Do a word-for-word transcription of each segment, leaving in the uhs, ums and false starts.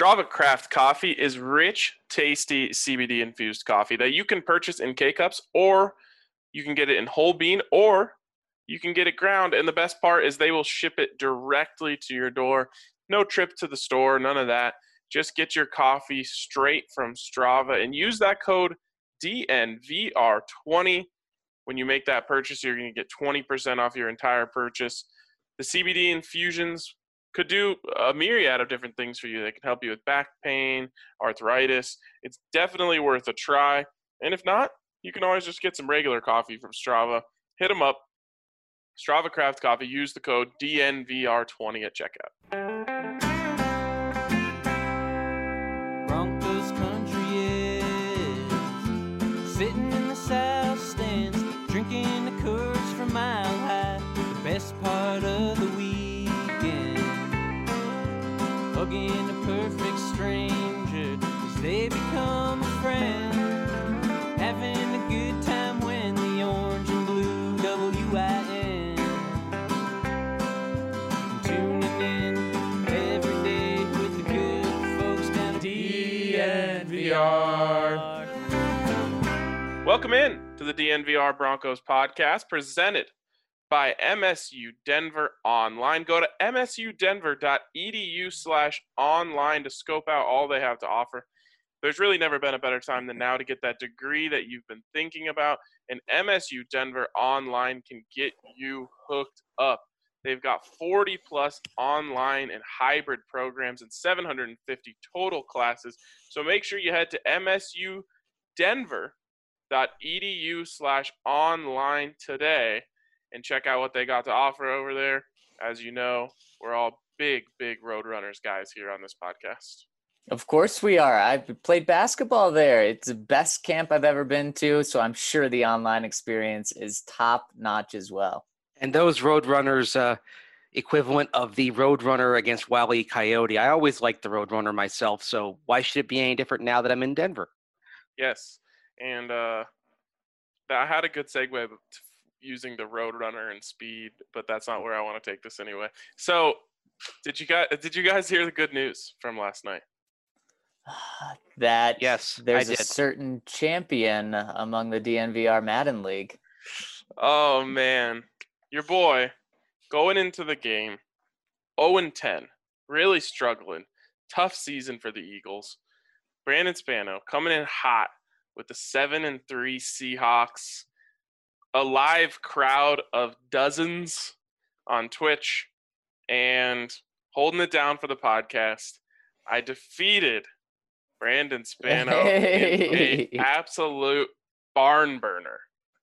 Strava Craft Coffee is rich, tasty C B D-infused coffee that you can purchase in K-Cups, or you can get it in whole bean, or you can get it ground. And the best part is they will ship it directly to your door. No trip to the store, none of that. Just get your coffee straight from Strava and use that code D N V R twenty. When you make that purchase, you're going to get twenty percent off your entire purchase. The C B D infusions could do a myriad of different things for you. They can help you with back pain, arthritis. It's definitely worth a try. And if not, you can always just get some regular coffee from Strava. Hit them up. Strava Craft Coffee. Use the code D N V R twenty at checkout. Broncos country is sitting in the south stands, drinking the Coors from Mile High. The best part of the weekend, hugging a perfect stranger as they become a friend, having a good time when the orange and blue W I N, tuning in every day with the good folks down at D N V R. Welcome in to the D N V R Broncos podcast, presented by M S U Denver Online. Go to msudenver.edu slash online to scope out all they have to offer. There's really never been a better time than now to get that degree that you've been thinking about, and M S U Denver Online can get you hooked up. They've got forty plus online and hybrid programs and seven hundred fifty total classes. So make sure you head to msudenver.edu slash online today and check out what they got to offer over there. As you know, we're all big, big Roadrunners guys here on this podcast. Of course we are. I've played basketball there. It's the best camp I've ever been to, so I'm sure the online experience is top-notch as well. And those Roadrunners, uh, equivalent of the Roadrunner against Wile E. Coyote. I always liked the Roadrunner myself, so why should it be any different now that I'm in Denver? Yes, and uh, I had a good segue using the Roadrunner and speed, but that's not where I want to take this anyway. So, did you guys did you guys hear the good news from last night? That Yes, there's I a did. certain champion among the D N V R Madden League. Oh man, your boy going into the game, oh and ten, really struggling. Tough season for the Eagles. Brandon Spano coming in hot with the seven and three Seahawks. A live crowd of dozens on Twitch and holding it down for the podcast. I defeated Brandon Spano Hey. in an absolute barn burner.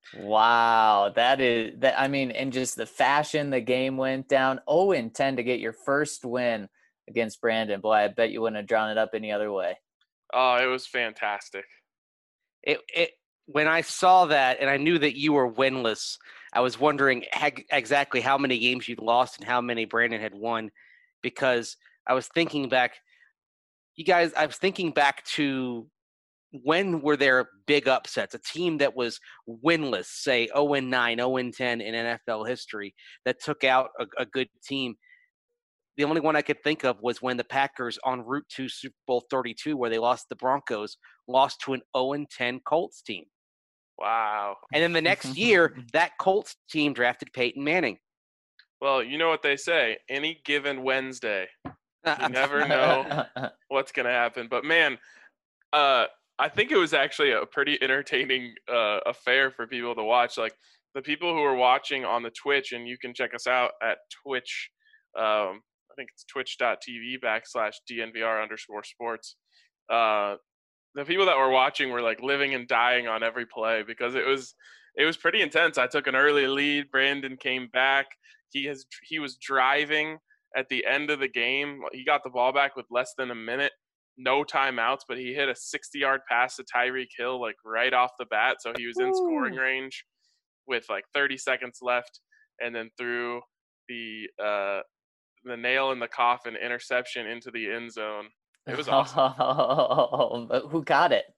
Wow, that is that. I mean, and just the fashion the game went down. oh and ten to get your first win against Brandon. Boy, I bet you wouldn't have drawn it up any other way. Oh, it was fantastic. It, it when I saw that and I knew that you were winless, I was wondering hag- exactly how many games you'd lost and how many Brandon had won, because I was thinking back. You guys, I was thinking back to when were there big upsets? A team that was winless, say oh and nine, oh and ten in N F L history, that took out a, a good team. The only one I could think of was when the Packers, en route to Super Bowl thirty-two, where they lost the Broncos, lost to an oh and ten Colts team. Wow. And then the next year, that Colts team drafted Peyton Manning. Well, you know what they say, any given Wednesday, you never know what's going to happen. But, man, uh, I think it was actually a pretty entertaining uh, affair for people to watch. Like, the people who are watching on the Twitch, and you can check us out at Twitch, um, I think it's twitch.tv backslash DNVR underscore sports. Uh, the people that were watching were like living and dying on every play because it was it was pretty intense. I took an early lead. Brandon came back. He has he was driving at the end of the game. He got the ball back with less than a minute, no timeouts, but he hit a sixty-yard pass to Tyreek Hill like right off the bat, so he was in scoring range with like thirty seconds left, and then threw the uh, the nail in the coffin interception into the end zone. It was awesome. Oh, but who got it?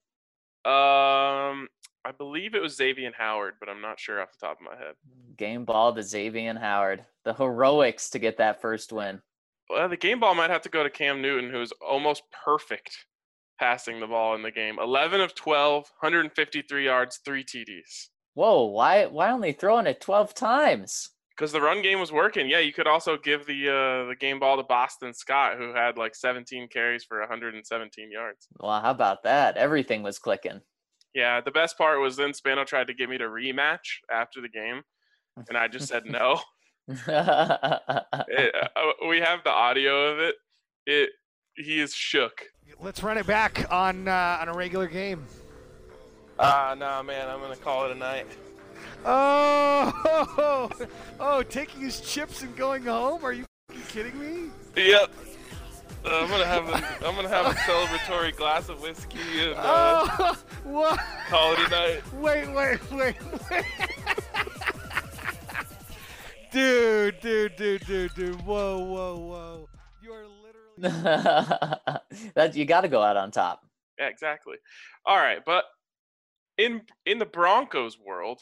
Um, I believe it was Xavier Howard, but I'm not sure off the top of my head. Game ball to Xavier Howard. The heroics to get that first win. Well, the game ball might have to go to Cam Newton, who's almost perfect passing the ball in the game. eleven of twelve, one hundred fifty-three yards, three T Ds. Whoa, why why only throwing it twelve times? Because the run game was working. Yeah, you could also give the uh, the game ball to Boston Scott, who had like seventeen carries for one hundred seventeen yards. Well, how about that? Everything was clicking. Yeah, the best part was then Spano tried to get me to rematch after the game, and I just said no. it, uh, we have the audio of it. It he is shook. Let's run it back on uh, on a regular game. Ah, uh, nah, man, I'm gonna call it a night. Oh, oh, taking his chips and going home? Are you kidding me? Yep. Uh, I'm gonna have a I'm gonna have a celebratory glass of whiskey and uh, oh, what? Call it a night. Wait, wait, wait, wait. Dude, dude, dude, dude, dude. Whoa, whoa, whoa. You are literally that you got to go out on top. Yeah, exactly. All right, but in in the Broncos world,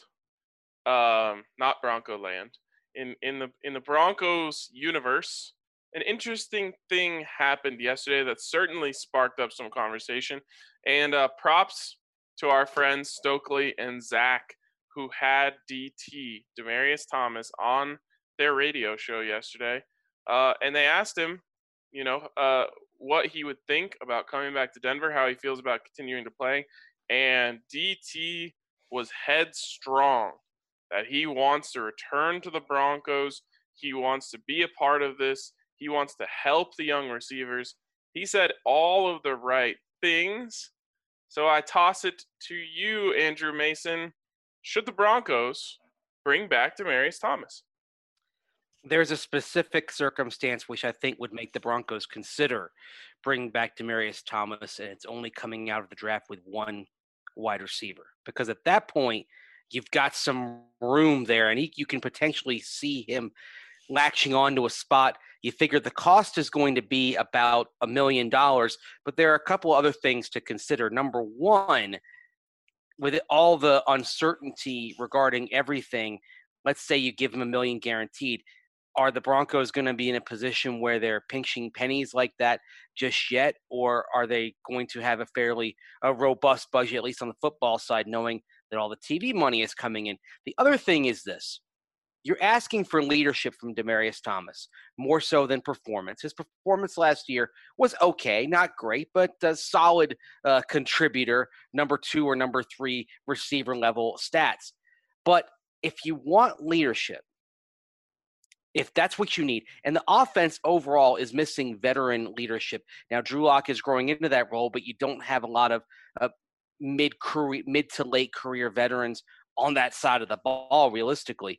um, not Bronco land, in in the in the Broncos universe, an interesting thing happened yesterday that certainly sparked up some conversation. And uh, props to our friends Stokely and Zach, who had D T, Demaryius Thomas, on their radio show yesterday. Uh, and they asked him, you know, uh, what he would think about coming back to Denver, how he feels about continuing to play. And D T was headstrong that he wants to return to the Broncos. He wants to be a part of this. He wants to help the young receivers. He said all of the right things. So I toss it to you, Andrew Mason. Should the Broncos bring back Demaryius Thomas? There's a specific circumstance which I think would make the Broncos consider bringing back Demaryius Thomas, and it's only coming out of the draft with one wide receiver. Because at that point, you've got some room there, and he, you can potentially see him latching onto a spot. You figure the cost is going to be about a million dollars, but there are a couple other things to consider. Number one, with all the uncertainty regarding everything, let's say you give him a million guaranteed. Are the Broncos going to be in a position where they're pinching pennies like that just yet? Or are they going to have a fairly a robust budget, at least on the football side, knowing that all the T V money is coming in? The other thing is this. You're asking for leadership from Demaryius Thomas, more so than performance. His performance last year was okay, not great, but a solid uh, contributor, number two or number three receiver level stats. But if you want leadership, if that's what you need, and the offense overall is missing veteran leadership. Now, Drew Lock is growing into that role, but you don't have a lot of uh, mid-career, mid to late career veterans on that side of the ball, realistically.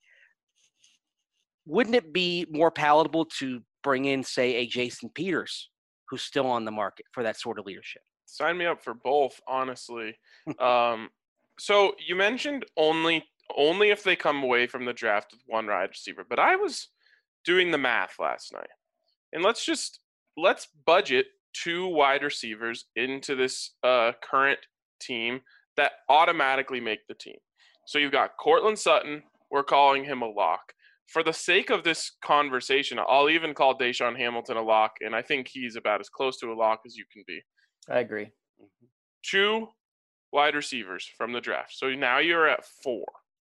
Wouldn't it be more palatable to bring in, say, a Jason Peters, who's still on the market for that sort of leadership? Sign me up for both, honestly. um, so you mentioned only only if they come away from the draft with one wide receiver, but I was doing the math last night, and let's just let's budget two wide receivers into this uh, current team that automatically make the team. So you've got Courtland Sutton. We're calling him a lock. For the sake of this conversation, I'll even call Deshaun Hamilton a lock, and I think he's about as close to a lock as you can be. I agree. Two wide receivers from the draft. So now you're at four.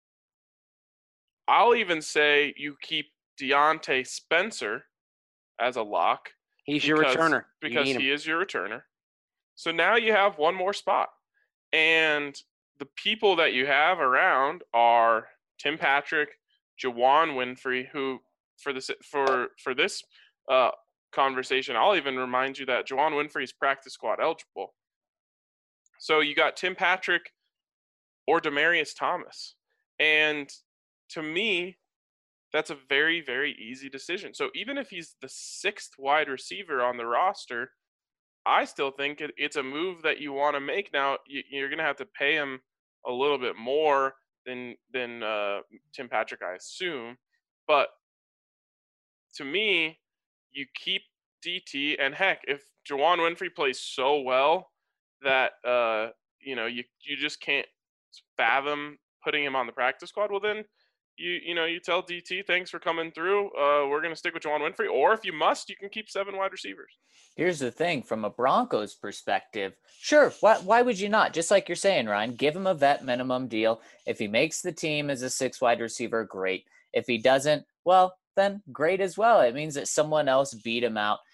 I'll even say you keep Deontay Spencer as a lock. He's because, your returner. Because you he is your returner. So now you have one more spot. And the people that you have around are Tim Patrick, Juwann Winfree, who for this for for this uh, conversation, I'll even remind you that Juwann Winfree is practice squad eligible. So you got Tim Patrick or Demaryius Thomas, and to me, that's a very very easy decision. So even if he's the sixth wide receiver on the roster, I still think it, it's a move that you want to make. Now you, you're going to have to pay him a little bit more than than uh, Tim Patrick, I assume. But to me, you keep D T, and heck, if Juwann Winfree plays so well that uh, you know you you just can't fathom putting him on the practice squad, well then you you know, you tell D T, thanks for coming through. Uh, we're gonna stick with Juwan Winfrey, or if you must, you can keep seven wide receivers. Here's the thing, from a Broncos perspective, sure, why, why would you not? Just like you're saying, Ryan, give him a vet minimum deal. If he makes the team as a six wide receiver, great. If he doesn't, well, then great as well. It means that someone else beat him out.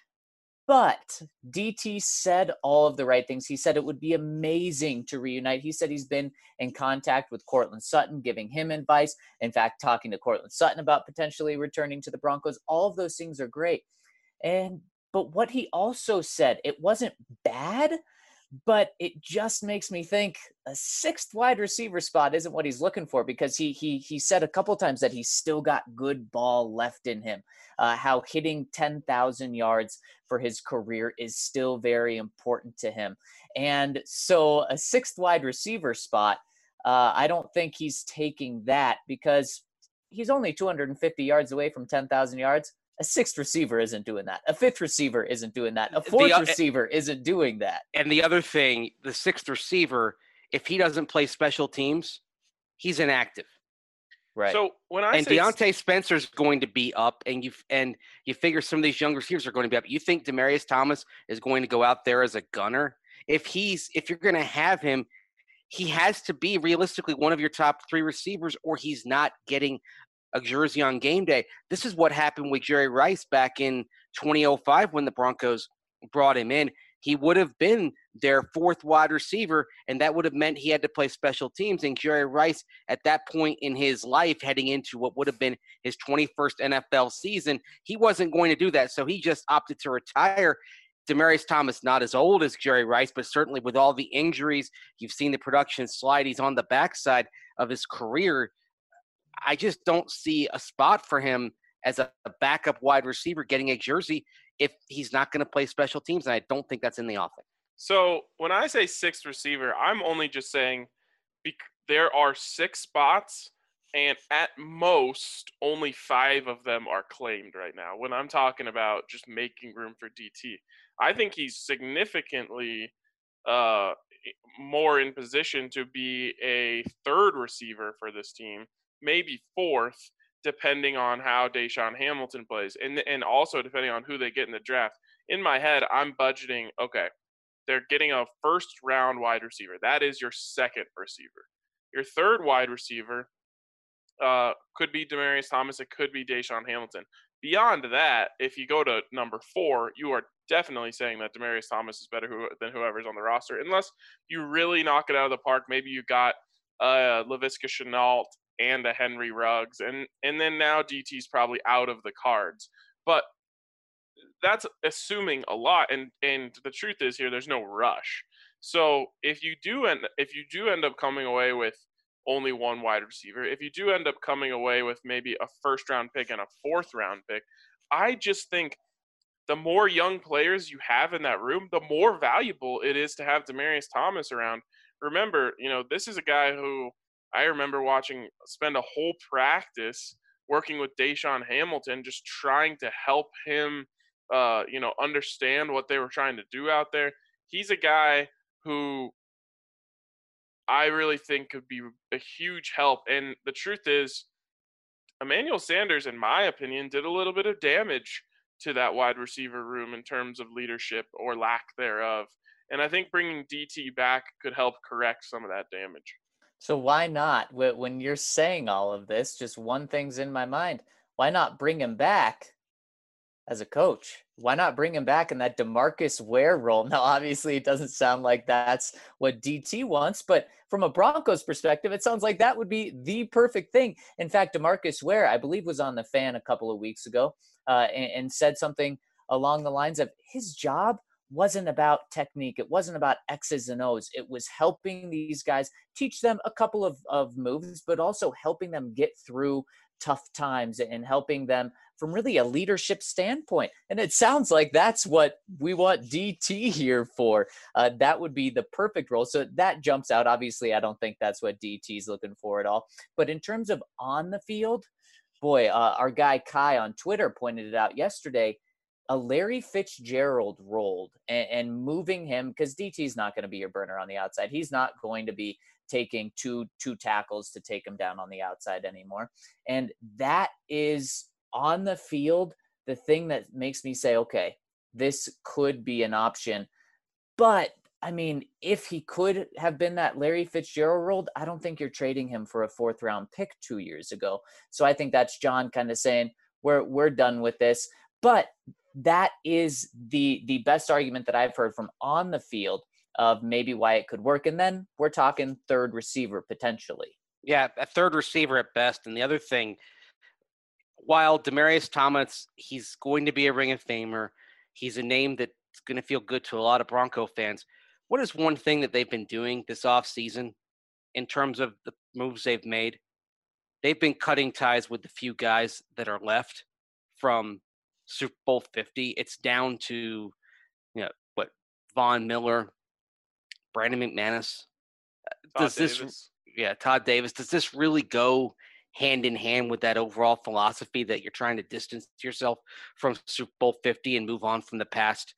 But D T said all of the right things. He said it would be amazing to reunite. He said he's been in contact with Courtland Sutton, giving him advice. In fact, talking to Courtland Sutton about potentially returning to the Broncos. All of those things are great. And but what he also said, it wasn't bad, but it just makes me think a sixth wide receiver spot isn't what he's looking for, because he he he said a couple times that he's still got good ball left in him. Uh, how hitting ten thousand yards for his career is still very important to him. And so a sixth wide receiver spot, uh, I don't think he's taking that, because he's only two hundred fifty yards away from ten thousand yards. A sixth receiver isn't doing that. A fifth receiver isn't doing that. A fourth The- receiver isn't doing that. And the other thing, the sixth receiver, if he doesn't play special teams, he's inactive. Right. So when I And say Deontay Spencer's going to be up, and you and you figure some of these young receivers are going to be up. You think Demaryius Thomas is going to go out there as a gunner? If he's if you're going to have him, he has to be realistically one of your top three receivers, or he's not getting a jersey on game day. This is what happened with Jerry Rice back in twenty oh five when the Broncos brought him in. He would have been their fourth wide receiver, and that would have meant he had to play special teams. And Jerry Rice, at that point in his life, heading into what would have been his twenty-first N F L season, he wasn't going to do that. So he just opted to retire. Demaryius Thomas, not as old as Jerry Rice, but certainly with all the injuries, you've seen the production slide. He's on the backside of his career. I just don't see a spot for him as a, a backup wide receiver getting a jersey if he's not going to play special teams, and I don't think that's in the offing. So when I say sixth receiver, I'm only just saying bec- there are six spots, and at most, only five of them are claimed right now. When I'm talking about just making room for D T, I think he's significantly uh, more in position to be a third receiver for this team, maybe fourth, depending on how Deshaun Hamilton plays, and and also depending on who they get in the draft. In my head, I'm budgeting, okay, they're getting a first round wide receiver. That is your second receiver. Your third wide receiver uh, could be Demaryius Thomas. It could be Deshaun Hamilton. Beyond that, if you go to number four, you are definitely saying that Demaryius Thomas is better who, than whoever's on the roster, unless you really knock it out of the park. Maybe you got uh, Laviska Shenault and a Henry Ruggs, and and then now D T's probably out of the cards. But that's assuming a lot, and and the truth is here, there's no rush. So if you do end if you do end up coming away with only one wide receiver, if you do end up coming away with maybe a first round pick and a fourth round pick, I just think the more young players you have in that room, the more valuable it is to have Demaryius Thomas around. Remember, you know, this is a guy who I remember watching spend a whole practice working with Deshaun Hamilton, just trying to help him, uh, you know, understand what they were trying to do out there. He's a guy who I really think could be a huge help. And the truth is, Emmanuel Sanders, in my opinion, did a little bit of damage to that wide receiver room in terms of leadership or lack thereof. And I think bringing D T back could help correct some of that damage. So why not? Wh- When you're saying all of this, just one thing's in my mind. Why not bring him back as a coach? Why not bring him back in that DeMarcus Ware role? Now, obviously, it doesn't sound like that's what D T wants, but from a Broncos perspective, it sounds like that would be the perfect thing. In fact, DeMarcus Ware, I believe, was on The Fan a couple of weeks ago uh, and, and said something along the lines of his job wasn't about technique. It wasn't about X's and O's. It was helping these guys, teach them a couple of, of moves, but also helping them get through tough times and helping them from really a leadership standpoint. And it sounds like that's what we want D T here for. Uh, that would be the perfect role. So that jumps out. Obviously, I don't think that's what D T's looking for at all. But in terms of on the field, boy, uh, our guy Kai on Twitter pointed it out yesterday. a Larry Fitzgerald role and, and moving him, because D T's not going to be your burner on the outside. He's not going to be taking two two tackles to take him down on the outside anymore. And that is on the field the thing that makes me say, okay, this could be an option. But I mean, if he could have been that Larry Fitzgerald role, I don't think you're trading him for a fourth round pick two years ago. So I think that's John kind of saying we're we're done with this. But that is the the best argument that I've heard from on the field of maybe why it could work. And then we're talking third receiver potentially. Yeah, a third receiver at best. And the other thing, while Demaryius Thomas, he's going to be a Ring of Famer. He's a name that's going to feel good to a lot of Bronco fans. What is one thing that they've been doing this offseason in terms of the moves they've made? They've been cutting ties with the few guys that are left from Super Bowl fifty. It's down to, you know, what, Von Miller, Brandon McManus. Todd Does this, Davis. yeah, Todd Davis. Does this really go hand in hand with that overall philosophy that you're trying to distance yourself from Super Bowl fifty and move on from the past?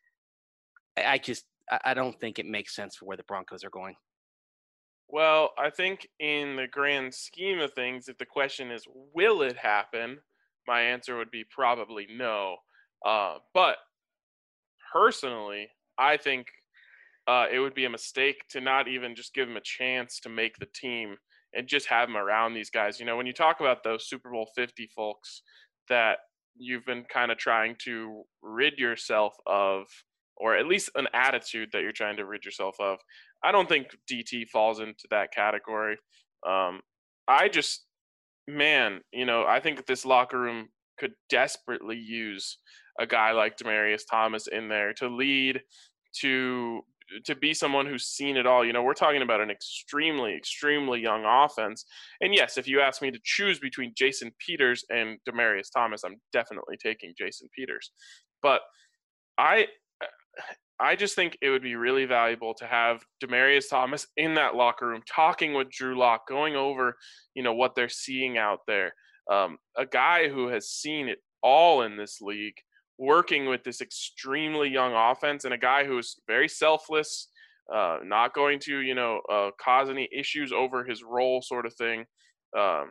I, I just, I don't think it makes sense for where the Broncos are going. Well, I think in the grand scheme of things, if the question is, will it happen? My answer would be probably no. Uh, but personally, I think uh, it would be a mistake to not even just give him a chance to make the team and just have him around these guys. You know, when you talk about those Super Bowl fifty folks that you've been kind of trying to rid yourself of, or at least an attitude that you're trying to rid yourself of, I don't think D T falls into that category. Um, I just, man, you know, I think this locker room could desperately use a guy like Demaryius Thomas in there to lead, to to be someone who's seen it all. You know, we're talking about an extremely, extremely young offense. And yes, if you ask me to choose between Jason Peters and Demaryius Thomas, I'm definitely taking Jason Peters. But I I just think it would be really valuable to have Demaryius Thomas in that locker room, talking with Drew Lock, going over, you know, what they're seeing out there. Um, a guy who has seen it all in this league, working with this extremely young offense, and a guy who is very selfless, uh, not going to, you know, uh, cause any issues over his role, sort of thing. Um,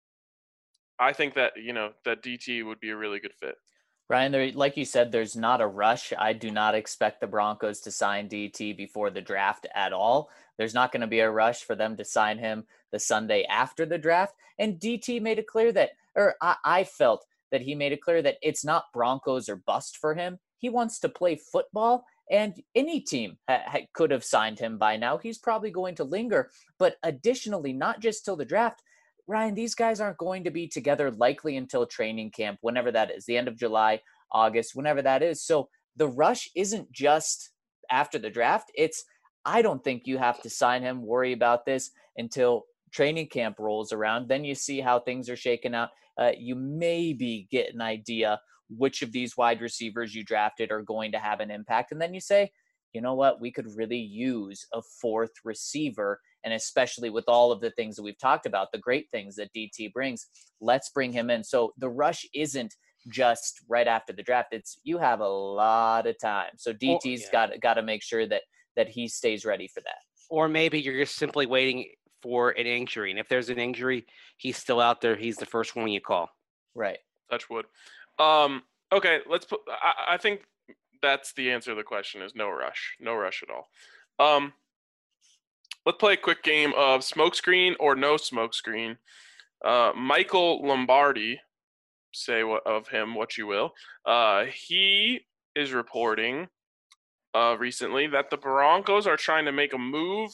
I think that, you know, that D T would be a really good fit. Ryan, there, like you said, there's not a rush. I do not expect the Broncos to sign D T before the draft at all. There's not going to be a rush for them to sign him the Sunday after the draft. And D T made it clear that, or I, I felt that he made it clear that it's not Broncos or bust for him. He wants to play football, and any team ha- ha- could have signed him by now. He's probably going to linger. But additionally, not just till the draft, Ryan, these guys aren't going to be together likely until training camp, whenever that is, the end of July, August, whenever that is. So the rush isn't just after the draft. It's, I don't think you have to sign him, worry about this until training camp rolls around. Then you see how things are shaking out. Uh, you maybe get an idea which of these wide receivers you drafted are going to have an impact. And then you say, you know what, we could really use a fourth receiver. And especially with all of the things that we've talked about, the great things that D T brings, let's bring him in. So the rush isn't just right after the draft. It's, you have a lot of time. So D T's yeah. got, got to make sure that, that he stays ready for that. Or maybe you're just simply waiting for an injury. And if there's an injury, he's still out there. He's the first one you call. Right. Touch wood. Um, okay, let's put, I, I think that's the answer to the question is no rush. No rush at all. Um, let's play a quick game of smokescreen or no smokescreen. Uh, Michael Lombardi, say what of him what you will. Uh, he is reporting uh, recently that the Broncos are trying to make a move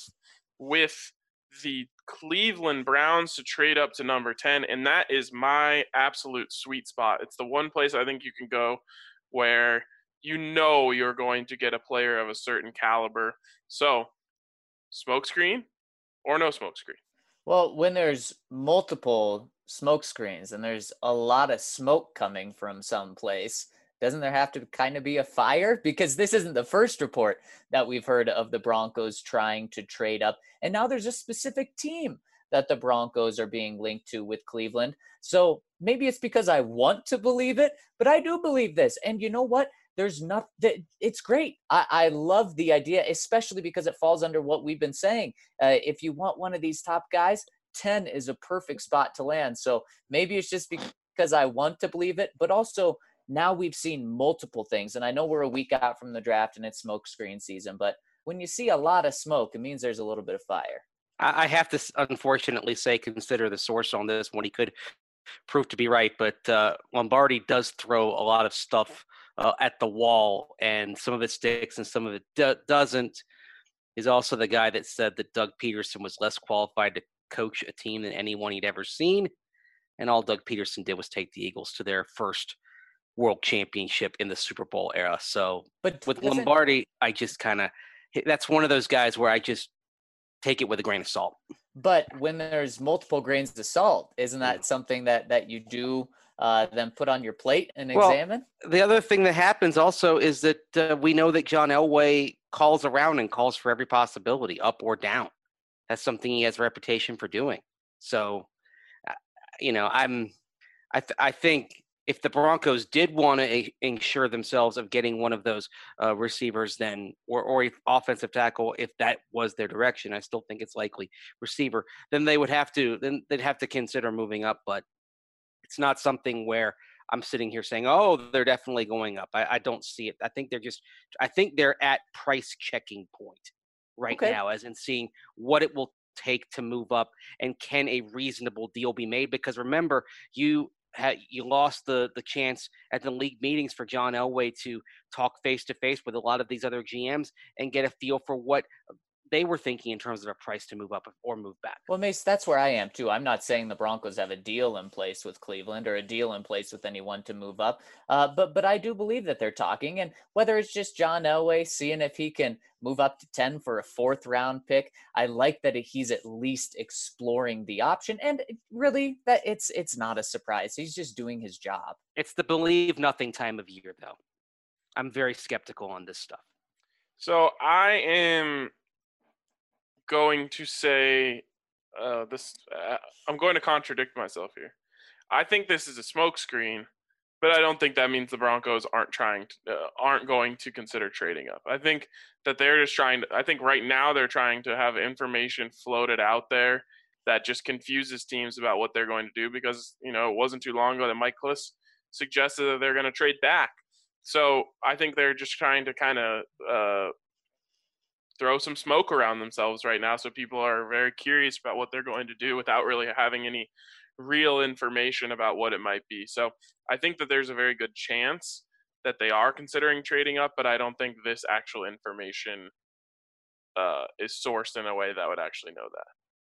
with the Cleveland Browns to trade up to number ten, and that is my absolute sweet spot. It's the one place I think you can go where you know you're going to get a player of a certain caliber. So, smokescreen or no smokescreen? Well, when there's multiple smoke screens and there's a lot of smoke coming from someplace, doesn't there have to kind of be a fire? Because this isn't the first report that we've heard of the Broncos trying to trade up. And now there's a specific team that the Broncos are being linked to with Cleveland. So maybe it's because I want to believe it, but I do believe this. And you know what? There's not that it's great. I, I love the idea, especially because it falls under what we've been saying. Uh, if you want one of these top guys, ten is a perfect spot to land. So maybe it's just because I want to believe it, but also now we've seen multiple things. And I know we're a week out from the draft and it's smoke screen season, but when you see a lot of smoke, it means there's a little bit of fire. I have to unfortunately say, consider the source on this one. He could prove to be right, but uh, Lombardi does throw a lot of stuff uh, at the wall, and some of it sticks and some of it do- doesn't. He's also the guy that said that Doug Peterson was less qualified to coach a team than anyone he'd ever seen, and all Doug Peterson did was take the Eagles to their first world championship in the Super Bowl era. So but with Lombardi, I just kind of – that's one of those guys where I just – take it with a grain of salt. But when there's multiple grains of salt, isn't that something that, that you do uh, then put on your plate and well, examine? The other thing that happens also is that uh, we know that John Elway calls around and calls for every possibility, up or down. That's something he has a reputation for doing. So, uh, you know, I'm, I, th- I think if the Broncos did want to ensure themselves of getting one of those uh, receivers, then or or offensive tackle, if that was their direction, I still think it's likely receiver. Then they would have to then they'd have to consider moving up. But it's not something where I'm sitting here saying, "Oh, they're definitely going up." I, I don't see it. I think they're just. I think they're at price checking point right Okay. now, as in seeing what it will take to move up and can a reasonable deal be made. Because remember, you. You lost the the chance at the league meetings for John Elway to talk face to face with a lot of these other G Ms and get a feel for what they were thinking in terms of a price to move up or move back. Well, Mace, that's where I am too. I'm not saying the Broncos have a deal in place with Cleveland or a deal in place with anyone to move up, uh, but but I do believe that they're talking. And whether it's just John Elway seeing if he can move up to ten for a fourth round pick, I like that he's at least exploring the option. And really, that it's it's not a surprise. He's just doing his job. It's the believe nothing time of year, though. I'm very skeptical on this stuff. So I am going to say uh, this. Uh, I'm going to contradict myself here. I think this is a smokescreen, but I don't think that means the Broncos aren't trying to, uh, aren't going to consider trading up. I think that they're just trying to. I think right now they're trying to have information floated out there that just confuses teams about what they're going to do, because you know it wasn't too long ago that Mike Klis suggested that they're going to trade back. So I think they're just trying to kind of uh, throw some smoke around themselves right now, so people are very curious about what they're going to do without really having any real information about what it might be. So I think that there's a very good chance that they are considering trading up, but I don't think this actual information uh, is sourced in a way that would actually know that.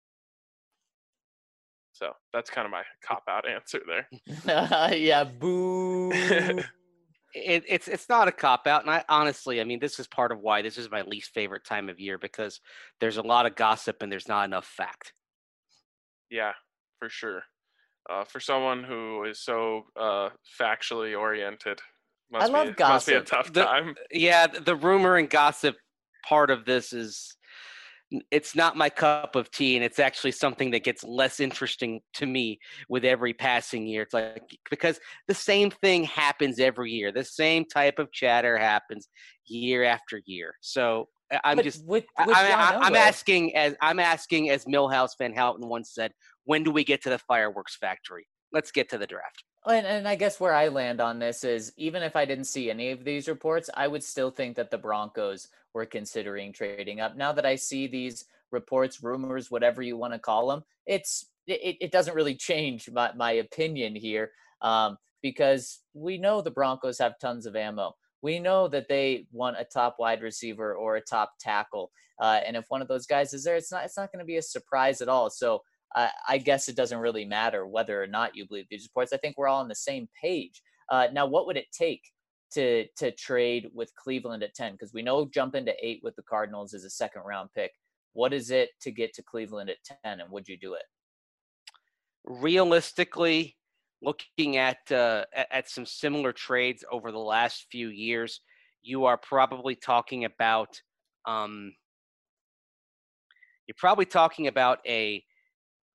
So that's kind of my cop-out answer there. Yeah, boo. It, it's it's not a cop-out, and I honestly, I mean, this is part of why this is my least favorite time of year, because there's a lot of gossip and there's not enough fact. Yeah, for sure. Uh, for someone who is so uh, factually oriented, must I love be, gossip. Must be a tough The- time. Yeah, the rumor and gossip part of this is, it's not my cup of tea, and it's actually something that gets less interesting to me with every passing year. It's like, because the same thing happens every year. The same type of chatter happens year after year. So I'm But just, with, I, with I, John I, I'm Elway- asking as I'm asking as Millhouse Van Houten once said, when do we get to the fireworks factory? Let's get to the draft. And, and I guess where I land on this is, even if I didn't see any of these reports, I would still think that the Broncos were considering trading up. Now that I see these reports, rumors, whatever you want to call them, it's it, it doesn't really change my, my opinion here, um, because we know the Broncos have tons of ammo. We know that they want a top wide receiver or a top tackle, uh, and if one of those guys is there, it's not it's not going to be a surprise at all. So Uh, I guess it doesn't really matter whether or not you believe these reports. I think we're all on the same page. Uh, now, what would it take to to trade with Cleveland at ten? Because we know jumping to eight with the Cardinals is a second round pick. What is it to get to Cleveland at ten, and would you do it? Realistically, looking at uh, at, at some similar trades over the last few years, you are probably talking about um, you're probably talking about a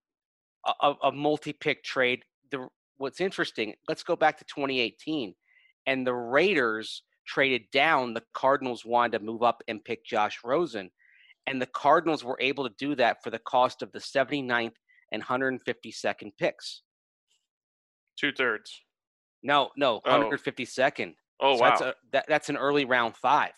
a, a multi-pick trade. The what's interesting, let's go back to twenty eighteen, and the Raiders traded down. The Cardinals wanted to move up and pick Josh Rosen, and the Cardinals were able to do that for the cost of the seventy-ninth and one hundred fifty-second picks. Two thirds. No, no, Oh. one hundred fifty-second. Oh, So wow. that's a, that, that's an early round five.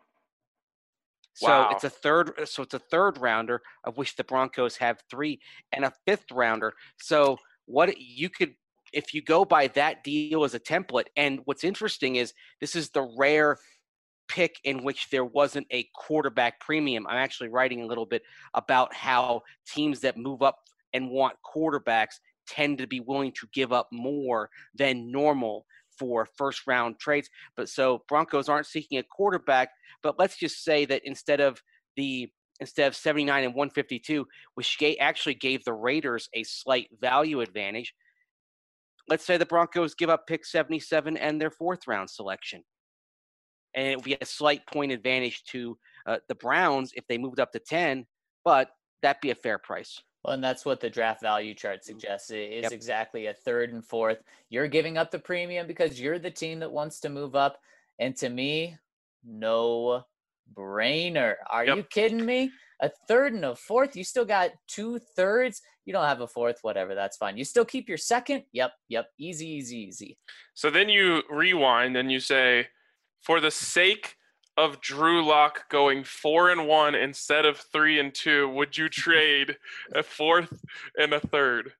So Wow. it's a third. So it's a third rounder, of which the Broncos have three, and a fifth rounder. So what you could, if you go by that deal as a template, and what's interesting is this is the rare pick in which there wasn't a quarterback premium. I'm actually writing a little bit about how teams that move up and want quarterbacks tend to be willing to give up more than normal for first round trades. But so Broncos aren't seeking a quarterback, but let's just say that instead of the instead of seventy-nine and one fifty-two, which actually gave the Raiders a slight value advantage, let's say the Broncos give up pick seventy-seven and their fourth round selection. And it would be a slight point advantage to uh, the Browns if they moved up to ten, but that'd be a fair price. Well, and that's what the draft value chart suggests. It is Yep. exactly a third and fourth. You're giving up the premium because you're the team that wants to move up. And to me, no brainer. Are Yep. you kidding me? A third and a fourth? You still got two thirds? You don't have a fourth, whatever. That's fine. You still keep your second? Yep, yep. Easy, easy, easy. So then you rewind and you say, for the sake of Drew Lock going four and one instead of three and two, would you trade a fourth and a third?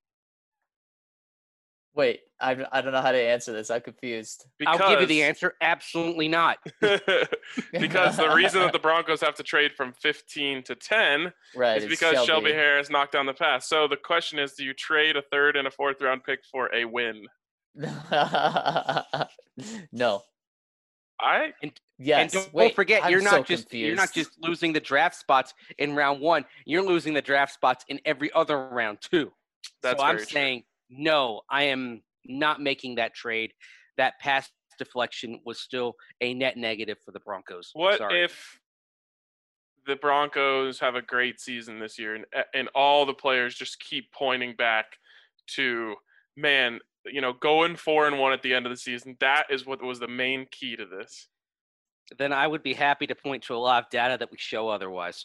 Wait, I, I don't know how to answer this. I'm confused. Because, I'll give you the answer. Absolutely not. because the reason that the Broncos have to trade from fifteen to ten Right. is it's because Shelby. Harris knocked down the pass. So the question is, do you trade a third and a fourth round pick for a win? No. I Yes. And don't Wait, forget, I'm you're so not just you're not confused. just losing the draft spots in round one. You're losing the draft spots in every other round too. That's so I'm very true. saying no. I am not making that trade. That pass deflection was still a net negative for the Broncos. What Sorry. if the Broncos have a great season this year and and all the players just keep pointing back to, man, you know, going four and one at the end of the season? That is what was the main key to this. Then I would be happy to point to a lot of data that would show otherwise.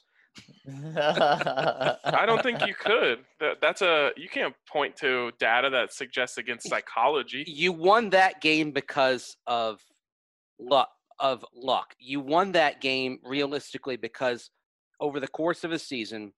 I don't think you could. That, that's a you can't point to data that suggests against psychology. You won that game because of luck. Of luck. You won that game realistically because over the course of a season,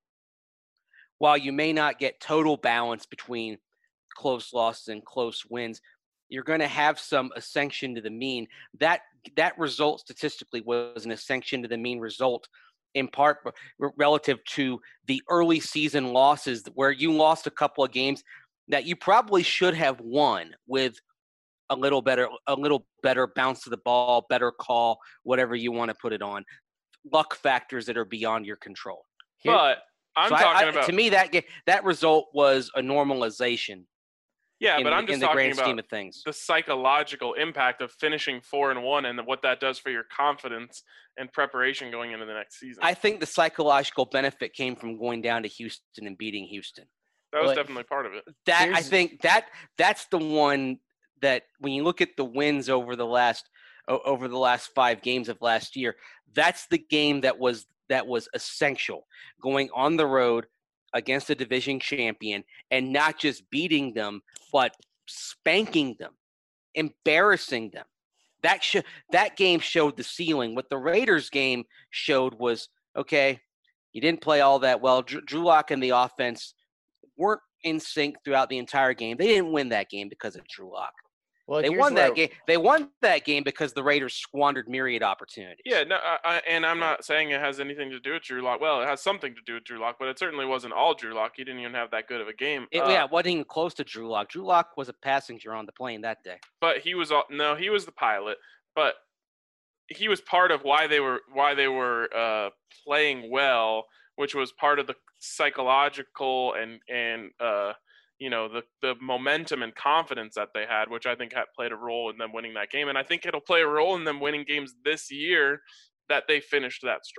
while you may not get total balance between close losses and close wins, you're going to have some ascension to the mean. That that result statistically was an ascension to the mean result, in part r- relative to the early season losses where you lost a couple of games that you probably should have won with a little better, a little better bounce to the ball, better call, whatever you want to put it on. Luck factors that are beyond your control. Here- But I'm So I- talking I- about to me that ga- that result was a normalization. yeah, in, but the- I'm just in the talking grand about scheme of things. the psychological impact of finishing four and one and what that does for your confidence and preparation going into the next season. I think the psychological benefit came from going down to Houston and beating Houston. that was Well, definitely part of it. That I Here's- think that that's the one that when you look at the wins over the last o- over the last five games of last year, that's the game that was that was essential. Going on the road against a division champion and not just beating them, but spanking them, embarrassing them. That sh- that game showed the ceiling. What the Raiders game showed was, okay, you didn't play all that well. Drew, Drew Lock and the offense weren't in sync throughout the entire game. They didn't win that game because of Drew Lock. well, They here's won where- that game. They won that game because the Raiders squandered myriad opportunities. Yeah, no, I, I, and I'm not saying it has anything to do with Drew Lock. Well, it has something to do with Drew Lock, but it certainly wasn't all Drew Lock. He didn't even have that good of a game. It, Uh, yeah, it wasn't even close to Drew Lock. Drew Lock was a passenger on the plane that day. but he was all, no, he was the pilot, but he was part of why they were why they were uh, playing well, which was part of the psychological and and uh, you know the the momentum and confidence that they had, which I think had played a role in them winning that game, and I think it'll play a role in them winning games this year that they finished that strong.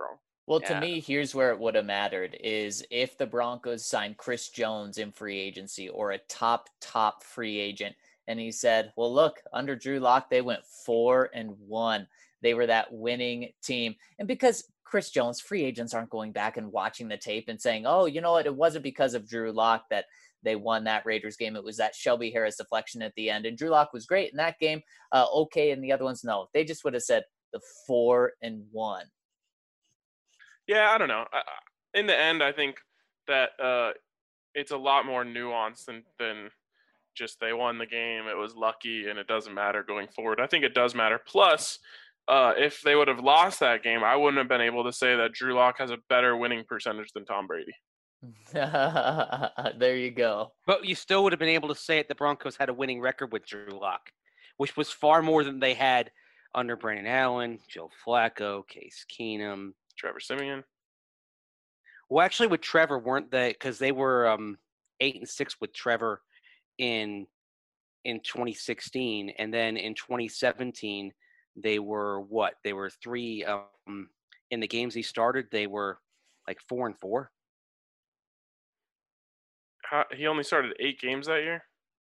Well, to Yeah. me, here's where it would have mattered is if the Broncos signed Chris Jones in free agency or a top, top free agent. And he said, well, look, under Drew Lock, they went four and one. They were that winning team. And because Chris Jones, free agents aren't going back and watching the tape and saying, oh, you know what? It wasn't because of Drew Lock that they won that Raiders game. It was that Shelby Harris deflection at the end. And Drew Lock was great in that game. Uh, okay. And the other ones, no. They just would have said the four and one. Yeah, I don't know. I, in the end, I think that uh, it's a lot more nuanced than, than just they won the game, it was lucky, and it doesn't matter going forward. I think it does matter. Plus, uh, if they would have lost that game, I wouldn't have been able to say that Drew Lock has a better winning percentage than Tom Brady. There you go. But you still would have been able to say it. The Broncos had a winning record with Drew Lock, which was far more than they had under Brandon Allen, Joe Flacco, Case Keenum, Trevor Siemian. Well, actually, with Trevor, weren't they? Because they were um, eight and six with Trevor in in twenty sixteen, and then in twenty seventeen they were what? They were three um, in the games he started. They were like four and four. How, he only started eight games that year.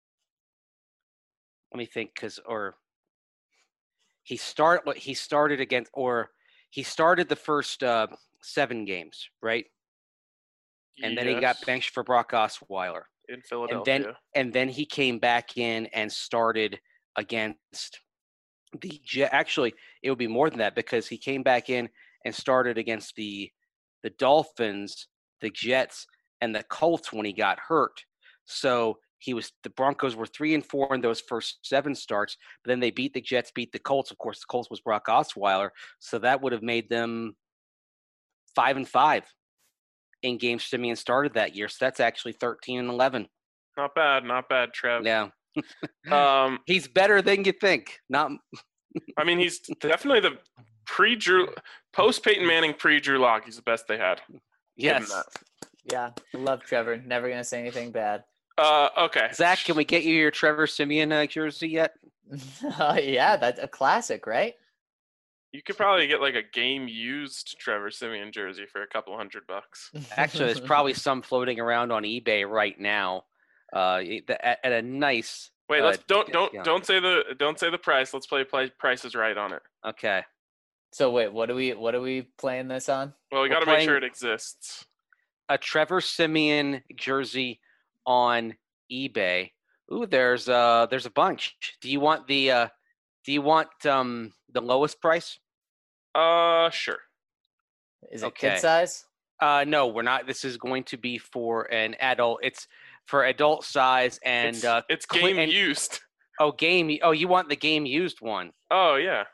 Let me think, because or he start what he started against, or he started the first uh, seven games, right? And then yes. he got benched for Brock Osweiler. In Philadelphia. And then, and then he came back in and started against the Jet. Actually, it would be more than that because he came back in and started against the the Dolphins, the Jets, and the Colts when he got hurt. So he was the Broncos were three and four in those first seven starts. But then they beat the Jets, beat the Colts. Of course, the Colts was Brock Osweiler, so that would have made them five and five in games Siemian started that year. So that's actually thirteen and eleven. Not bad, not bad, Trev. Yeah. um, he's better than you think. Not. I mean, he's definitely the pre-Drew, post-Peyton Manning pre-Drew Lock. He's the best they had. Yes. Yeah, I love Trevor. Never gonna say anything bad. Uh, okay. Zach, can we get you your Trevor Siemian uh, jersey yet? uh, yeah, that's a classic, right? You could probably get like a game-used Trevor Siemian jersey for a couple hundred bucks. Actually, there's probably some floating around on eBay right now. Uh, at, at a nice. Wait, uh, let's don't don't yeah. don't say the don't say the price. Let's play play prices right on it. Okay. So wait, what are we what are we playing this on? Well, we got to playing- make sure it exists. A Trevor Siemian jersey on eBay. Ooh, there's uh there's a bunch. Do you want the uh do you want um the lowest price? Uh, sure. Is it Okay. kid size? Uh no, we're not. This is going to be for an adult. It's for adult size and It's, uh it's cle- game and- used. oh game oh you want the game used one. Oh yeah.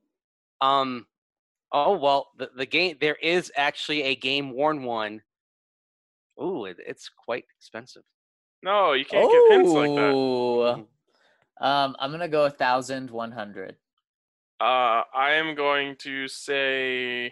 Um oh well the, the game there is actually a game worn one. Ooh, it, it's quite expensive. No, you can't give hints like that. Oh, um, I'm gonna go a thousand one hundred. Uh, I am going to say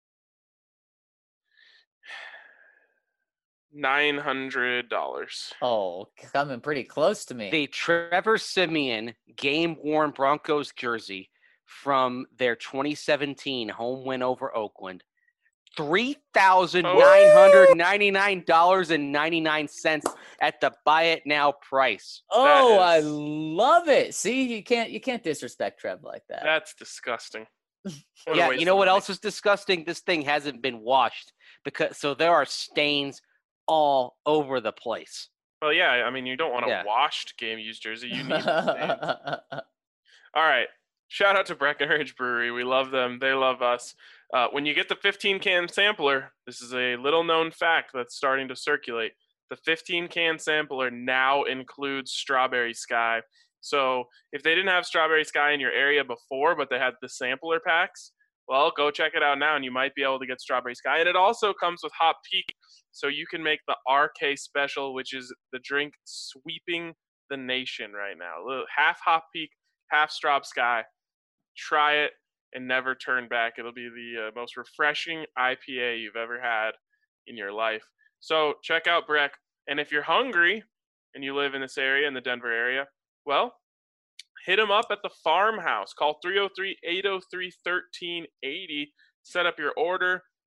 nine hundred dollars. Oh, coming pretty close to me. The Trevor Siemian game worn Broncos jersey from their twenty seventeen home win over Oakland. three thousand nine hundred ninety-nine dollars and ninety-nine cents at the buy it now price. Oh, I is- love it. See, you can't you can't disrespect Trev like that. That's disgusting. What a Yeah, waste you know of what money. else is disgusting? This thing hasn't been washed because so there are stains all over the place. Well, yeah, I mean, you don't want a Yeah. washed game used jersey. You need the stains. All right. Shout out to Breckenridge Brewery. We love them. They love us. Uh, when you get the fifteen can sampler, this is a little known fact that's starting to circulate. The fifteen can sampler now includes Strawberry Sky. So if they didn't have Strawberry Sky in your area before, but they had the sampler packs, well, go check it out now and you might be able to get Strawberry Sky. And it also comes with Hop Peak. So you can make the R K Special, which is the drink sweeping the nation right now. A little- Half Hop Peak, half Straub Sky. Try it and never turn back. It'll be the uh, most refreshing I P A you've ever had in your life. So check out Breck. And if you're hungry and you live in this area, in the Denver area, well, hit them up at the farmhouse. Call three oh three, eight oh three, one three eight oh. Set up your order.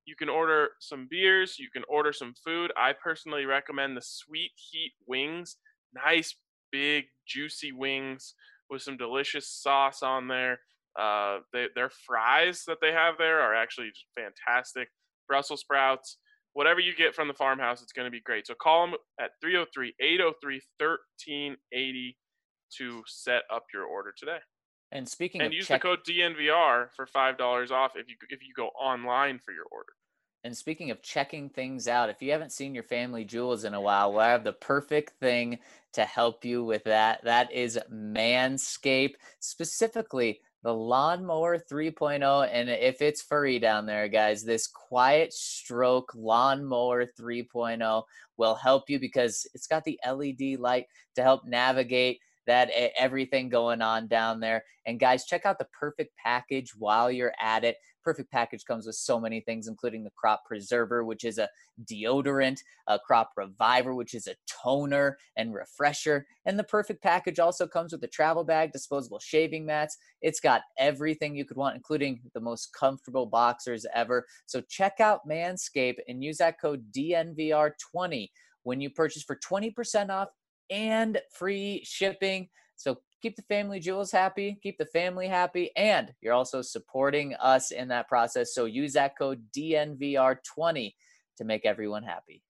You can order some beers. You can order some food. I personally recommend the Sweet Heat wings. Nice, big, juicy wings with some delicious sauce on there. Uh, they, their fries that they have there are actually just fantastic. Brussels sprouts, whatever you get from the farmhouse, it's going to be great. So call them at three oh three, eight oh three, one three eight oh to set up your order today. And speaking and of use check- the code D N V R for five dollars off if you if you go online for your order. And speaking of checking things out, if you haven't seen your family jewels in a while, well, I have the perfect thing to help you with that. That is Manscaped, specifically the Lawnmower three point oh. And if it's furry down there, guys, this Quiet Stroke Lawnmower three point oh will help you because it's got the L E D light to help navigate that everything going on down there. And guys, check out the Perfect Package while you're at it. Perfect Package comes with so many things, including the Crop Preserver, which is a deodorant, a Crop Reviver, which is a toner and refresher. And the Perfect Package also comes with a travel bag, disposable shaving mats. It's got everything you could want, including the most comfortable boxers ever. So check out Manscaped and use that code D N V R twenty when you purchase for twenty percent off and free shipping. So keep the family jewels happy, keep the family happy, and you're also supporting us in that process. So use that code D N V R twenty to make everyone happy.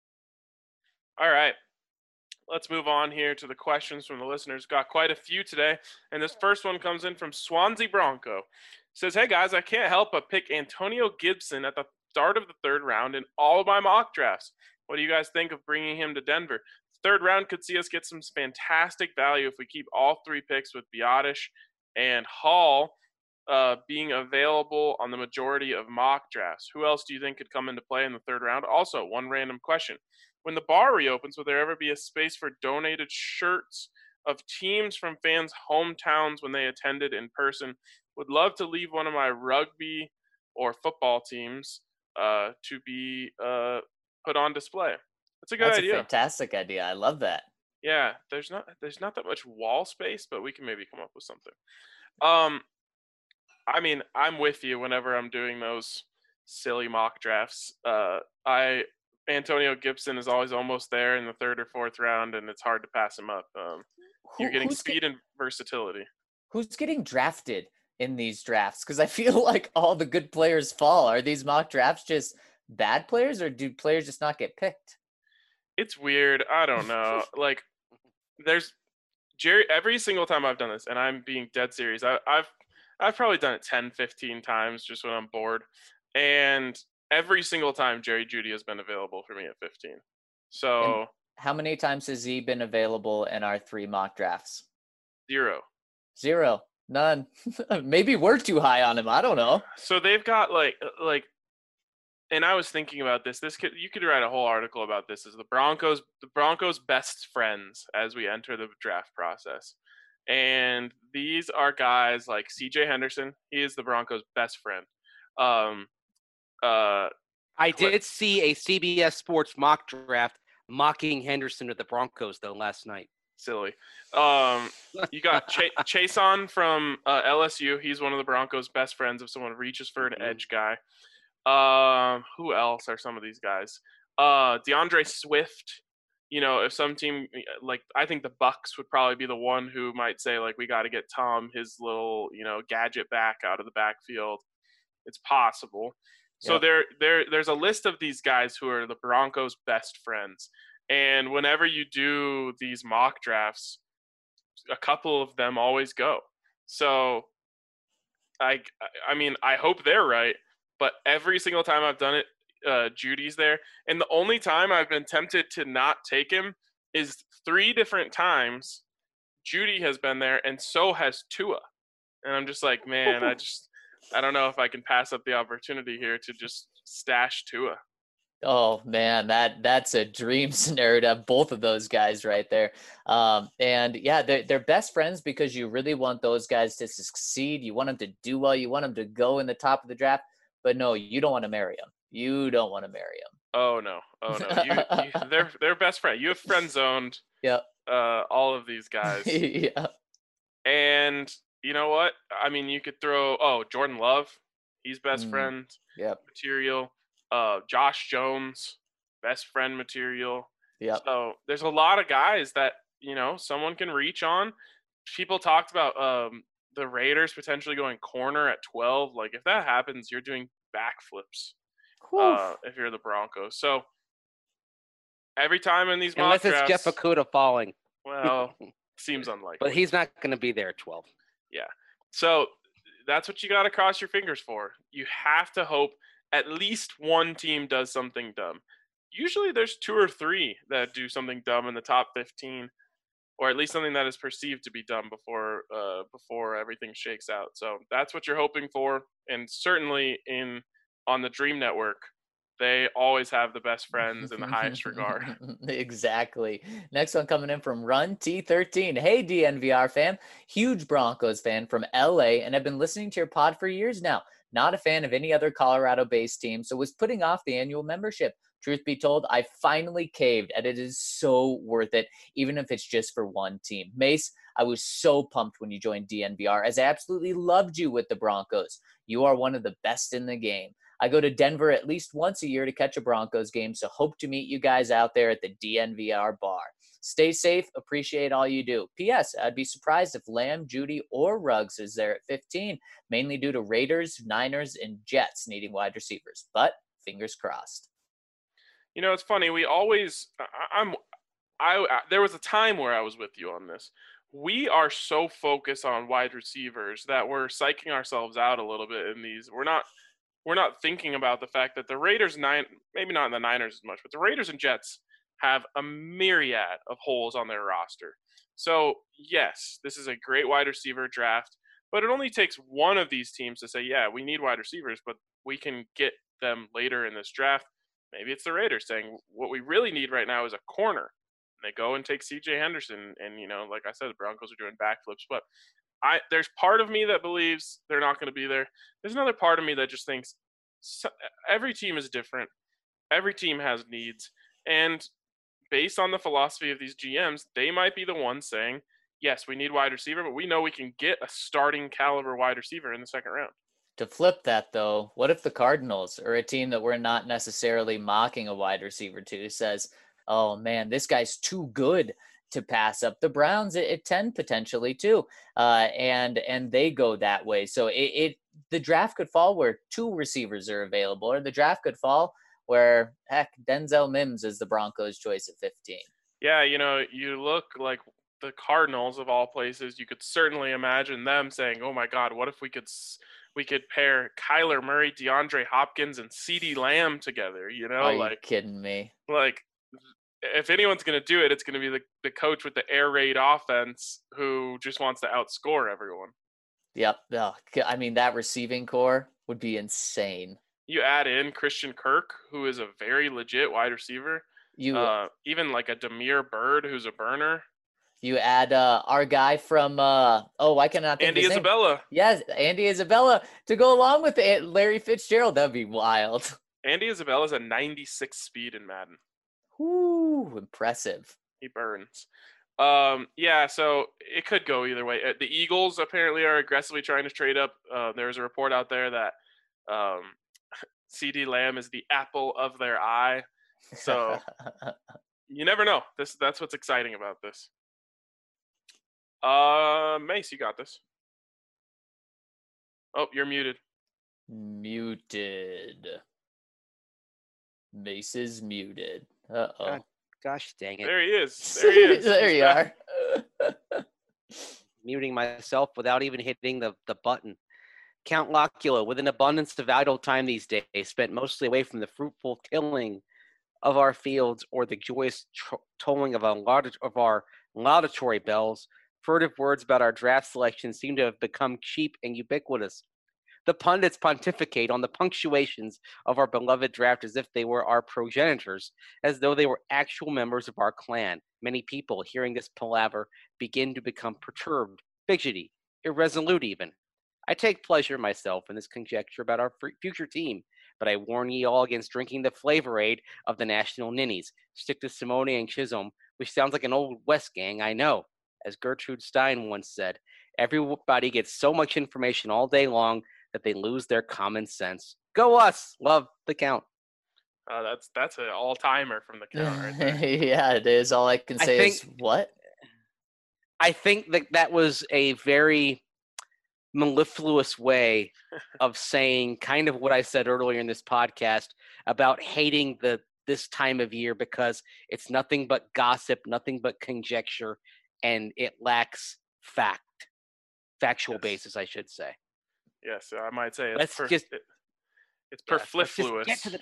All right. Let's move on here to the questions from the listeners. Got quite a few today. And this first one comes in from Swansea Bronco. It says, hey guys, I can't help but pick Antonio Gibson at the start of the third round in all of my mock drafts. What do you guys think of bringing him to Denver? Third round could see us get some fantastic value if we keep all three picks with Biotish and Hall uh, being available on the majority of mock drafts. Who else do you think could come into play in the third round? Also, one random question. When the bar reopens, will there ever be a space for donated shirts of teams from fans' hometowns when they attended in person? Would love to leave one of my rugby or football teams uh, to be uh, put on display. That's a good That's idea. That's a fantastic idea. I love that. Yeah, there's not there's not that much wall space, but we can maybe come up with something. Um, I mean, I'm with you whenever I'm doing those silly mock drafts. Uh, I Antonio Gibson is always almost there in the third or fourth round, and it's hard to pass him up. Um, Who, you're getting who's speed get, and versatility. Who's getting drafted in these drafts? Because I feel like all the good players fall. Are these mock drafts just bad players, or do players just not get picked? It's weird. I don't know. Like, there's Jerry. Every single time I've done this, and I'm being dead serious, I, I've I've probably done it ten, fifteen times just when I'm bored, and every single time Jerry Jeudy has been available for me at fifteen. So, and how many times has he been available in our three mock drafts? Zero. Zero. None. Maybe we're too high on him. I don't know. So they've got like like. And I was thinking about this. This could you could write a whole article about this. Is the Broncos the Broncos' best friends as we enter the draft process, and these are guys like C J Henderson. He is the Broncos' best friend. Um, uh, I did see a C B S Sports mock draft mocking Henderson to the Broncos though last night. Silly. Um, you got Ch- Chason from uh, L S U. He's one of the Broncos' best friends. If someone reaches for an mm-hmm. edge guy. Um, who else are some of these guys? Uh, DeAndre Swift. You know, if some team like I think the Bucks would probably be the one who might say like we got to get Tom his little you know gadget back out of the backfield. It's possible. So yep. there, there, there's a list of these guys who are the Broncos' best friends, and whenever you do these mock drafts, a couple of them always go. So, I, I mean, I hope they're right. But every single time I've done it, uh, Jeudy's there. And the only time I've been tempted to not take him is three different times Jeudy has been there, and so has Tua. And I'm just like, man, I just I don't know if I can pass up the opportunity here to just stash Tua. Oh, man, that that's a dream scenario to have both of those guys right there. Um, and, yeah, they're, they're best friends because you really want those guys to succeed. You want them to do well. You want them to go in the top of the draft. But no, you don't want to marry them. You don't want to marry them. Oh no! Oh no! You, you, they're they're best friend. You have friend zoned. Yep. Uh, all of these guys. Yeah. And you know what? I mean, you could throw. Oh, Jordan Love. He's best mm. friend. Yep. Material. uh, Josh Jones, best friend material. Yeah. So there's a lot of guys that, you know, someone can reach on. People talked about um, the Raiders potentially going corner at twelve. Like, if that happens, you're doing backflips uh, if you're the Broncos. So every time in these mock Unless it's drafts, Jeff Okudah falling. well, seems unlikely. But he's not going to be there at twelve. Yeah. So that's what you got to cross your fingers for. You have to hope at least one team does something dumb. Usually there's two or three that do something dumb in the top fifteen, or at least something that is perceived to be dumb before uh, before everything shakes out. So that's what you're hoping for. And certainly in on the Dream Network, they always have the best friends in the highest regard. Exactly. Next one coming in from Run T thirteen. Hey, D N V R fam. Huge Broncos fan from L A, and I've been listening to your pod for years now. Not a fan of any other Colorado-based team, so was putting off the annual membership. Truth be told, I finally caved, and it is so worth it, even if it's just for one team. Mace, I was so pumped when you joined D N V R, as I absolutely loved you with the Broncos. You are one of the best in the game. I go to Denver at least once a year to catch a Broncos game, so hope to meet you guys out there at the D N V R bar. Stay safe. Appreciate all you do. P S. I'd be surprised if Lamb, Judy, or Ruggs is there at fifteen, mainly due to Raiders, Niners, and Jets needing wide receivers. But fingers crossed. You know, it's funny. We always, I, I'm, I, I, there was a time where I was with you on this. We are so focused on wide receivers that we're psyching ourselves out a little bit in these. We're not, we're not thinking about the fact that the Raiders, nine, maybe not in the Niners as much, but the Raiders and Jets have a myriad of holes on their roster. So yes, this is a great wide receiver draft, but it only takes one of these teams to say, yeah, we need wide receivers, but we can get them later in this draft. Maybe it's the Raiders saying what we really need right now is a corner. And they go and take C J Henderson. And, you know, like I said, the Broncos are doing backflips. But I there's part of me that believes they're not going to be there. There's another part of me that just thinks so, every team is different. Every team has needs. And based on the philosophy of these G Ms, they might be the ones saying, yes, we need wide receiver, but we know we can get a starting caliber wide receiver in the second round. To flip that, though, what if the Cardinals, or a team that we're not necessarily mocking a wide receiver to, says, oh, man, this guy's too good to pass up the Browns at, at ten potentially, too, uh, and and they go that way. So it, it the draft could fall where two receivers are available, or the draft could fall where, heck, Denzel Mims is the Broncos' choice at fifteen. Yeah, you know, you look like the Cardinals of all places. You could certainly imagine them saying, oh, my God, what if we could – we could pair Kyler Murray, DeAndre Hopkins, and CeeDee Lamb together, you know? Are you like, kidding me? Like, if anyone's going to do it, it's going to be the, the coach with the air raid offense who just wants to outscore everyone. Yep. Oh, I mean, that receiving core would be insane. You add in Christian Kirk, who is a very legit wide receiver. You uh, Even like a Damiere Byrd, who's a burner. You add uh, our guy from, uh, oh, why can I not think Andy of his Isabella. Name? Yes, Andy Isabella to go along with it, Larry Fitzgerald. That'd be wild. Andy Isabella's a ninety-six speed in Madden. Whoo, impressive. He burns. Um, yeah, so it could go either way. The Eagles apparently are aggressively trying to trade up. Uh, there's a report out there that um, CeeDee Lamb is the apple of their eye. So you never know. This That's what's exciting about this. Uh, Mace, you got this. Oh, you're muted. Muted. Mace is muted. Uh-oh. God, gosh dang it. There he is. There he is. There you are. Muting myself without even hitting the, the button. Count Locula, with an abundance of idle time these days, spent mostly away from the fruitful tilling of our fields or the joyous tr- tolling of, a laud- of our laudatory bells. Furtive words about our draft selection seem to have become cheap and ubiquitous. The pundits pontificate on the punctuations of our beloved draft as if they were our progenitors, as though they were actual members of our clan. Many people, hearing this palaver, begin to become perturbed, fidgety, irresolute even. I take pleasure myself in this conjecture about our f- future team, but I warn ye all against drinking the flavor aid of the national ninnies. Stick to Simone and Chisholm, which sounds like an old West gang, I know. As Gertrude Stein once said, everybody gets so much information all day long that they lose their common sense. Go us! Love the Count. Uh, that's that's an all timer from the count right there. Yeah, it is. All I can I say think- is what? I think that that was a very mellifluous way of saying kind of what I said earlier in this podcast about hating the this time of year because it's nothing but gossip, nothing but conjecture, and it lacks fact, factual Yes. basis, I should say. Yes, I might say it's Let's per, just- it, it's Yeah, let's just perfluous. get to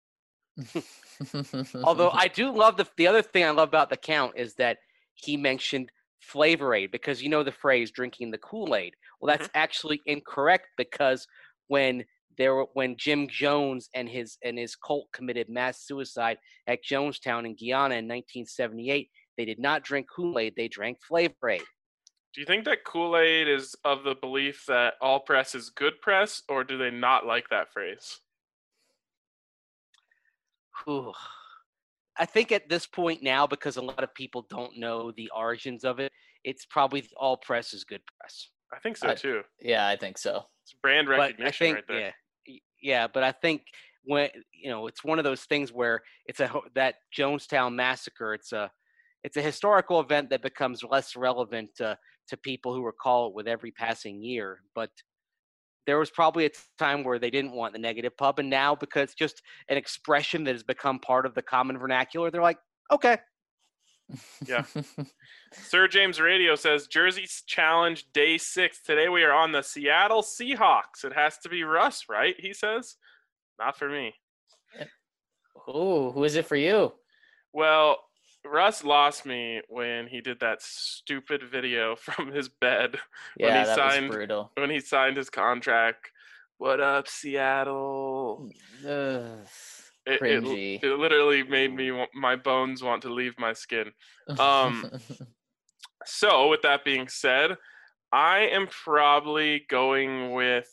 the- Although I do love the the other thing I love about the count is that he mentioned Flavor Aid because you know the phrase drinking the Kool-Aid. Well, that's actually incorrect because when there were when Jim Jones and his and his cult committed mass suicide at Jonestown in Guyana in nineteen seventy-eight, they did not drink Kool-Aid, they drank Flavor Aid. Do you think that Kool-Aid is of the belief that all press is good press, or do they not like that phrase? Whew. I think at this point now, because a lot of people don't know the origins of it, it's probably all press is good press. I think so I- too. Yeah, I think so. It's brand But I recognition think, right there. yeah, y- yeah. But I think when you know, it's one of those things where it's a ho- that Jonestown massacre. It's a it's a historical event that becomes less relevant to to people who recall it with every passing year. But there was probably a time where they didn't want the negative pub, and now because it's just an expression that has become part of the common vernacular, they're like, okay. Yeah. Sir James Radio says Jersey's Challenge Day Six. Today we are on the Seattle Seahawks. It has to be Russ, right? He says. Not for me. Ooh, who is it for you? Well, Russ lost me when he did that stupid video from his bed when Yeah, he that signed was brutal. when he signed his contract. What up, Seattle? Ugh, It, it, cringy. it literally made me wa- my bones want to leave my skin. Um, So, with that being said, I am probably going with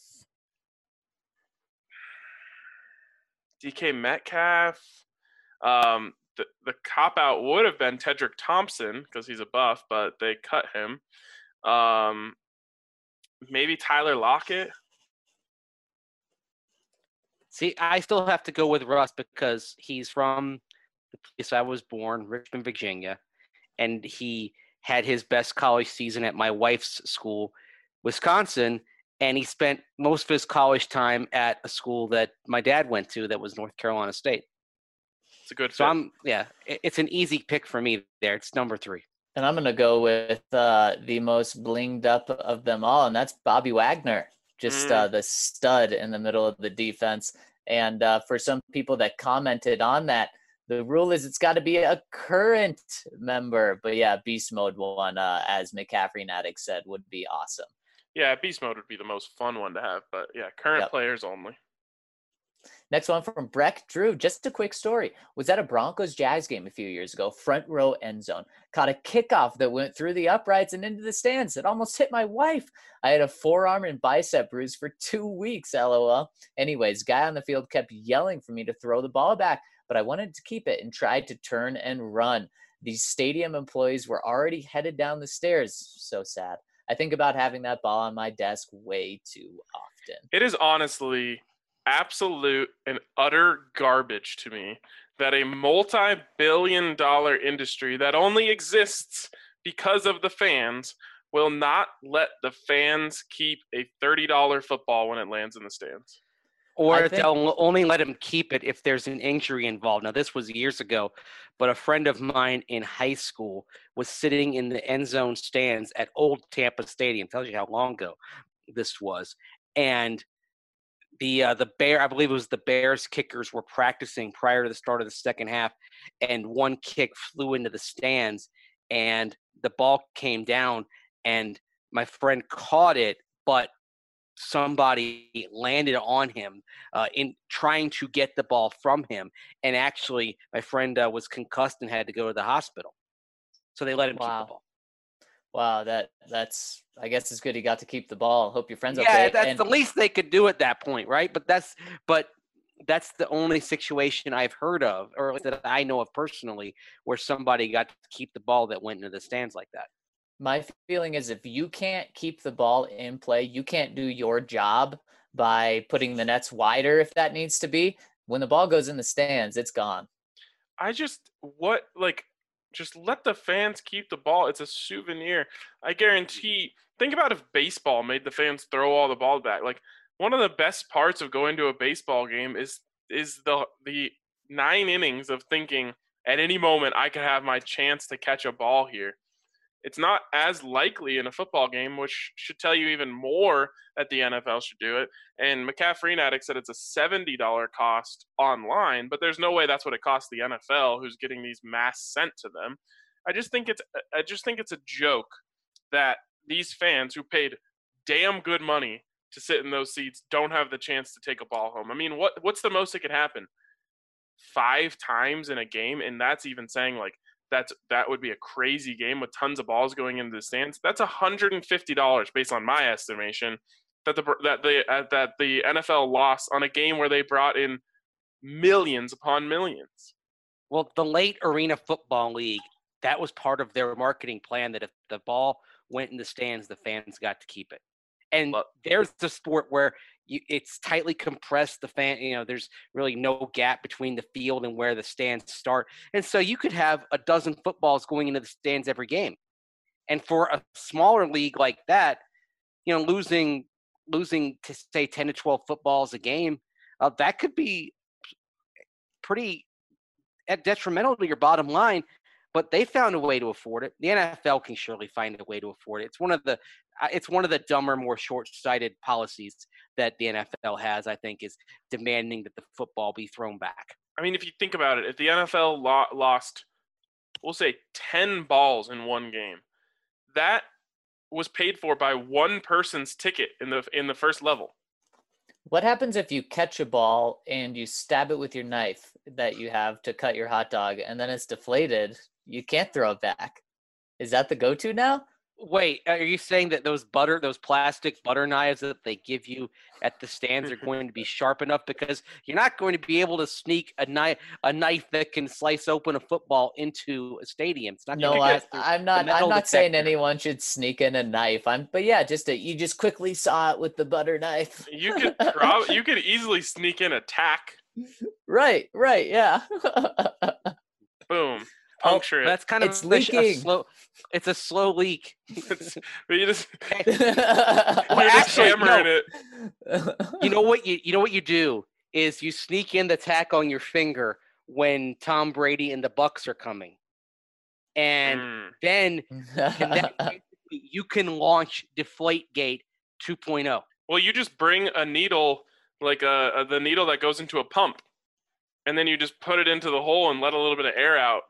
D K Metcalf. Um, the the cop out would have been Tedrick Thompson because he's a buff, but they cut him. Um, maybe Tyler Lockett. See, I still have to go with Russ because he's from the place I was born, Richmond, Virginia, and he had his best college season at my wife's school, Wisconsin, and he spent most of his college time at a school that my dad went to that was North Carolina State. It's a good So fit. I'm, yeah, it- it's an easy pick for me there. It's number three. And I'm gonna go with uh, the most blinged up of them all, and that's Bobby Wagner, just Mm. uh, the stud in the middle of the defense. And uh, for some people that commented on that, the rule is it's got to be a current member. But yeah, beast mode one, uh, as McCaffrey and Attic said, would be awesome. Yeah, beast mode would be the most fun one to have, but yeah, current Yep. players only. Next one from Breck Drew. Just a quick story. Was at a Broncos Jags game a few years ago, front row end zone. Caught a kickoff that went through the uprights and into the stands. It almost hit my wife. I had a forearm and bicep bruise for two weeks, lol. Anyways, guy on the field kept yelling for me to throw the ball back, but I wanted to keep it and tried to turn and run. These stadium employees were already headed down the stairs. So sad. I think about having that ball on my desk way too often. It is honestly absolute and utter garbage to me that a multi-billion dollar industry that only exists because of the fans will not let the fans keep a thirty dollar football when it lands in the stands. Or I if think- they'll only let him keep it if there's an injury involved. Now, this was years ago, but a friend of mine in high school was sitting in the end zone stands at Old Tampa Stadium. Tells you how long ago this was. And the uh, the Bear, I believe it was the Bears kickers were practicing prior to the start of the second half, and one kick flew into the stands, and the ball came down, and my friend caught it, but somebody landed on him uh, in trying to get the ball from him, and actually my friend uh, was concussed and had to go to the hospital. So they let him keep Wow. the ball. Wow, that that's I guess it's good he got to keep the ball. Hope your friend's Yeah, okay. that's And the least they could do at that point, right? But that's but that's the only situation I've heard of, or that I know of personally, where somebody got to keep the ball that went into the stands like that. my feeling is if you can't keep the ball in play, you can't do your job by putting the nets wider if that needs to be. When the ball goes in the stands, it's gone. I just what like just let the fans keep the ball. It's a souvenir. I guarantee. Think about if baseball made the fans throw all the ball back. Like one of the best parts of going to a baseball game is is the the nine innings of thinking at any moment I could have my chance to catch a ball here. It's not as likely in a football game, which should tell you even more that the N F L should do it. And McCaffrey Addict said it's a seventy dollars cost online, but there's no way that's what it costs the N F L, who's getting these mass sent to them. I just think it's I just think it's a joke that these fans who paid damn good money to sit in those seats don't have the chance to take a ball home. I mean, what what's the most that could happen? Five times in a game, and that's even saying like that's that would be a crazy game with tons of balls going into the stands. That's one hundred fifty dollars based on my estimation that the that the uh, that the N F L lost on a game where they brought in millions upon millions. Well, the late Arena Football League, that was part of their marketing plan, that if the ball went in the stands, the fans got to keep it. And But- there's the sport where you, it's tightly compressed. The fan, you know, there's really no gap between the field and where the stands start. And so you could have a dozen footballs going into the stands every game. And for a smaller league like that, you know, losing losing to say ten to twelve footballs a game, uh, that could be pretty detrimental to your bottom line. But they found a way to afford it. The N F L can surely find a way to afford it. It's one of the it's one of the dumber, more short-sighted policies that the N F L has, I think, is demanding that the football be thrown back. I mean, if you think about it, if the N F L lo- lost, we'll say ten balls in one game, that was paid for by one person's ticket in the in the first level. What happens if you catch a ball and you stab it with your knife that you have to cut your hot dog, and then it's deflated? You can't throw it back. Is that the go-to now? Wait, are you saying that those butter, those plastic butter knives that they give you at the stands are going to be sharp enough? Because you're not going to be able to sneak a knife, a knife that can slice open a football into a stadium. It's not. No, gonna I, get through I'm the not. metal I'm not saying detector. anyone should sneak in a knife. I'm, but yeah, just a, you just quickly saw it with the butter knife. You could prob- you could easily sneak in a tack. Right, right, yeah. Boom. Oh, Puncture it. that's kind of It's a sh- a leaking. slow. It's a slow leak. It's, but you just Well, you're just actually, hammering no. it. You know what you you know what you do is you sneak in the tack on your finger when Tom Brady and the Bucks are coming, and Mm. then and then basically you can launch Deflategate two point oh. Well, you just bring a needle, like a, a the needle that goes into a pump, and then you just put it into the hole and let a little bit of air out.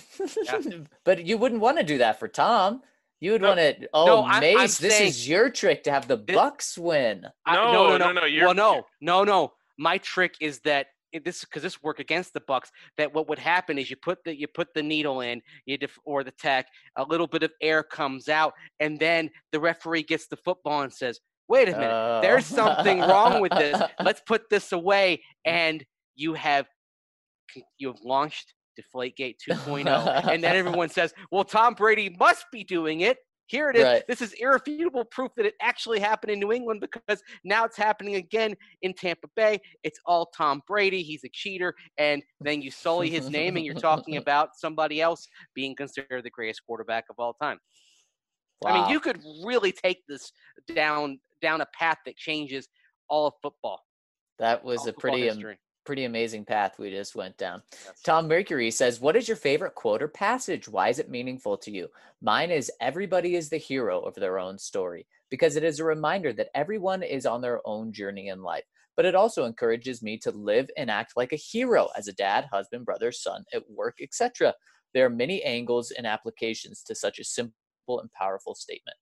But you wouldn't want to do that for Tom. You would No. want to. Oh, No, I- I'm Mace, this saying- is your trick to have the Thi- Bucks win. I- No, no, no, no, no, no, you're- well, no, no, no. My trick is that it- this because this work against the Bucks. That what would happen is you put the you put the needle in, you def, or the tack, a little bit of air comes out, and then the referee gets the football and says, "Wait a minute, there's Oh. something wrong with this. Let's put this away." And you have you have launched Deflategate two point oh, and then everyone says, "Well, Tom Brady must be doing it." Here it is. Right. This is irrefutable proof that it actually happened in New England, because now it's happening again in Tampa Bay. It's all Tom Brady. He's a cheater. And then you sully his name and you're talking about somebody else being considered the greatest quarterback of all time. I mean, Wow. you could really take this down down a path that changes all of football. That was all a football pretty am- history. pretty amazing path we just went down. Yes. Tom Mercury says, "What is your favorite quote or passage? Why is it meaningful to you?" Mine is, "Everybody is the hero of their own story," because it is a reminder that everyone is on their own journey in life. But it also encourages me to live and act like a hero as a dad, husband, brother, son, at work, et cetera. There are many angles and applications to such a simple and powerful statement.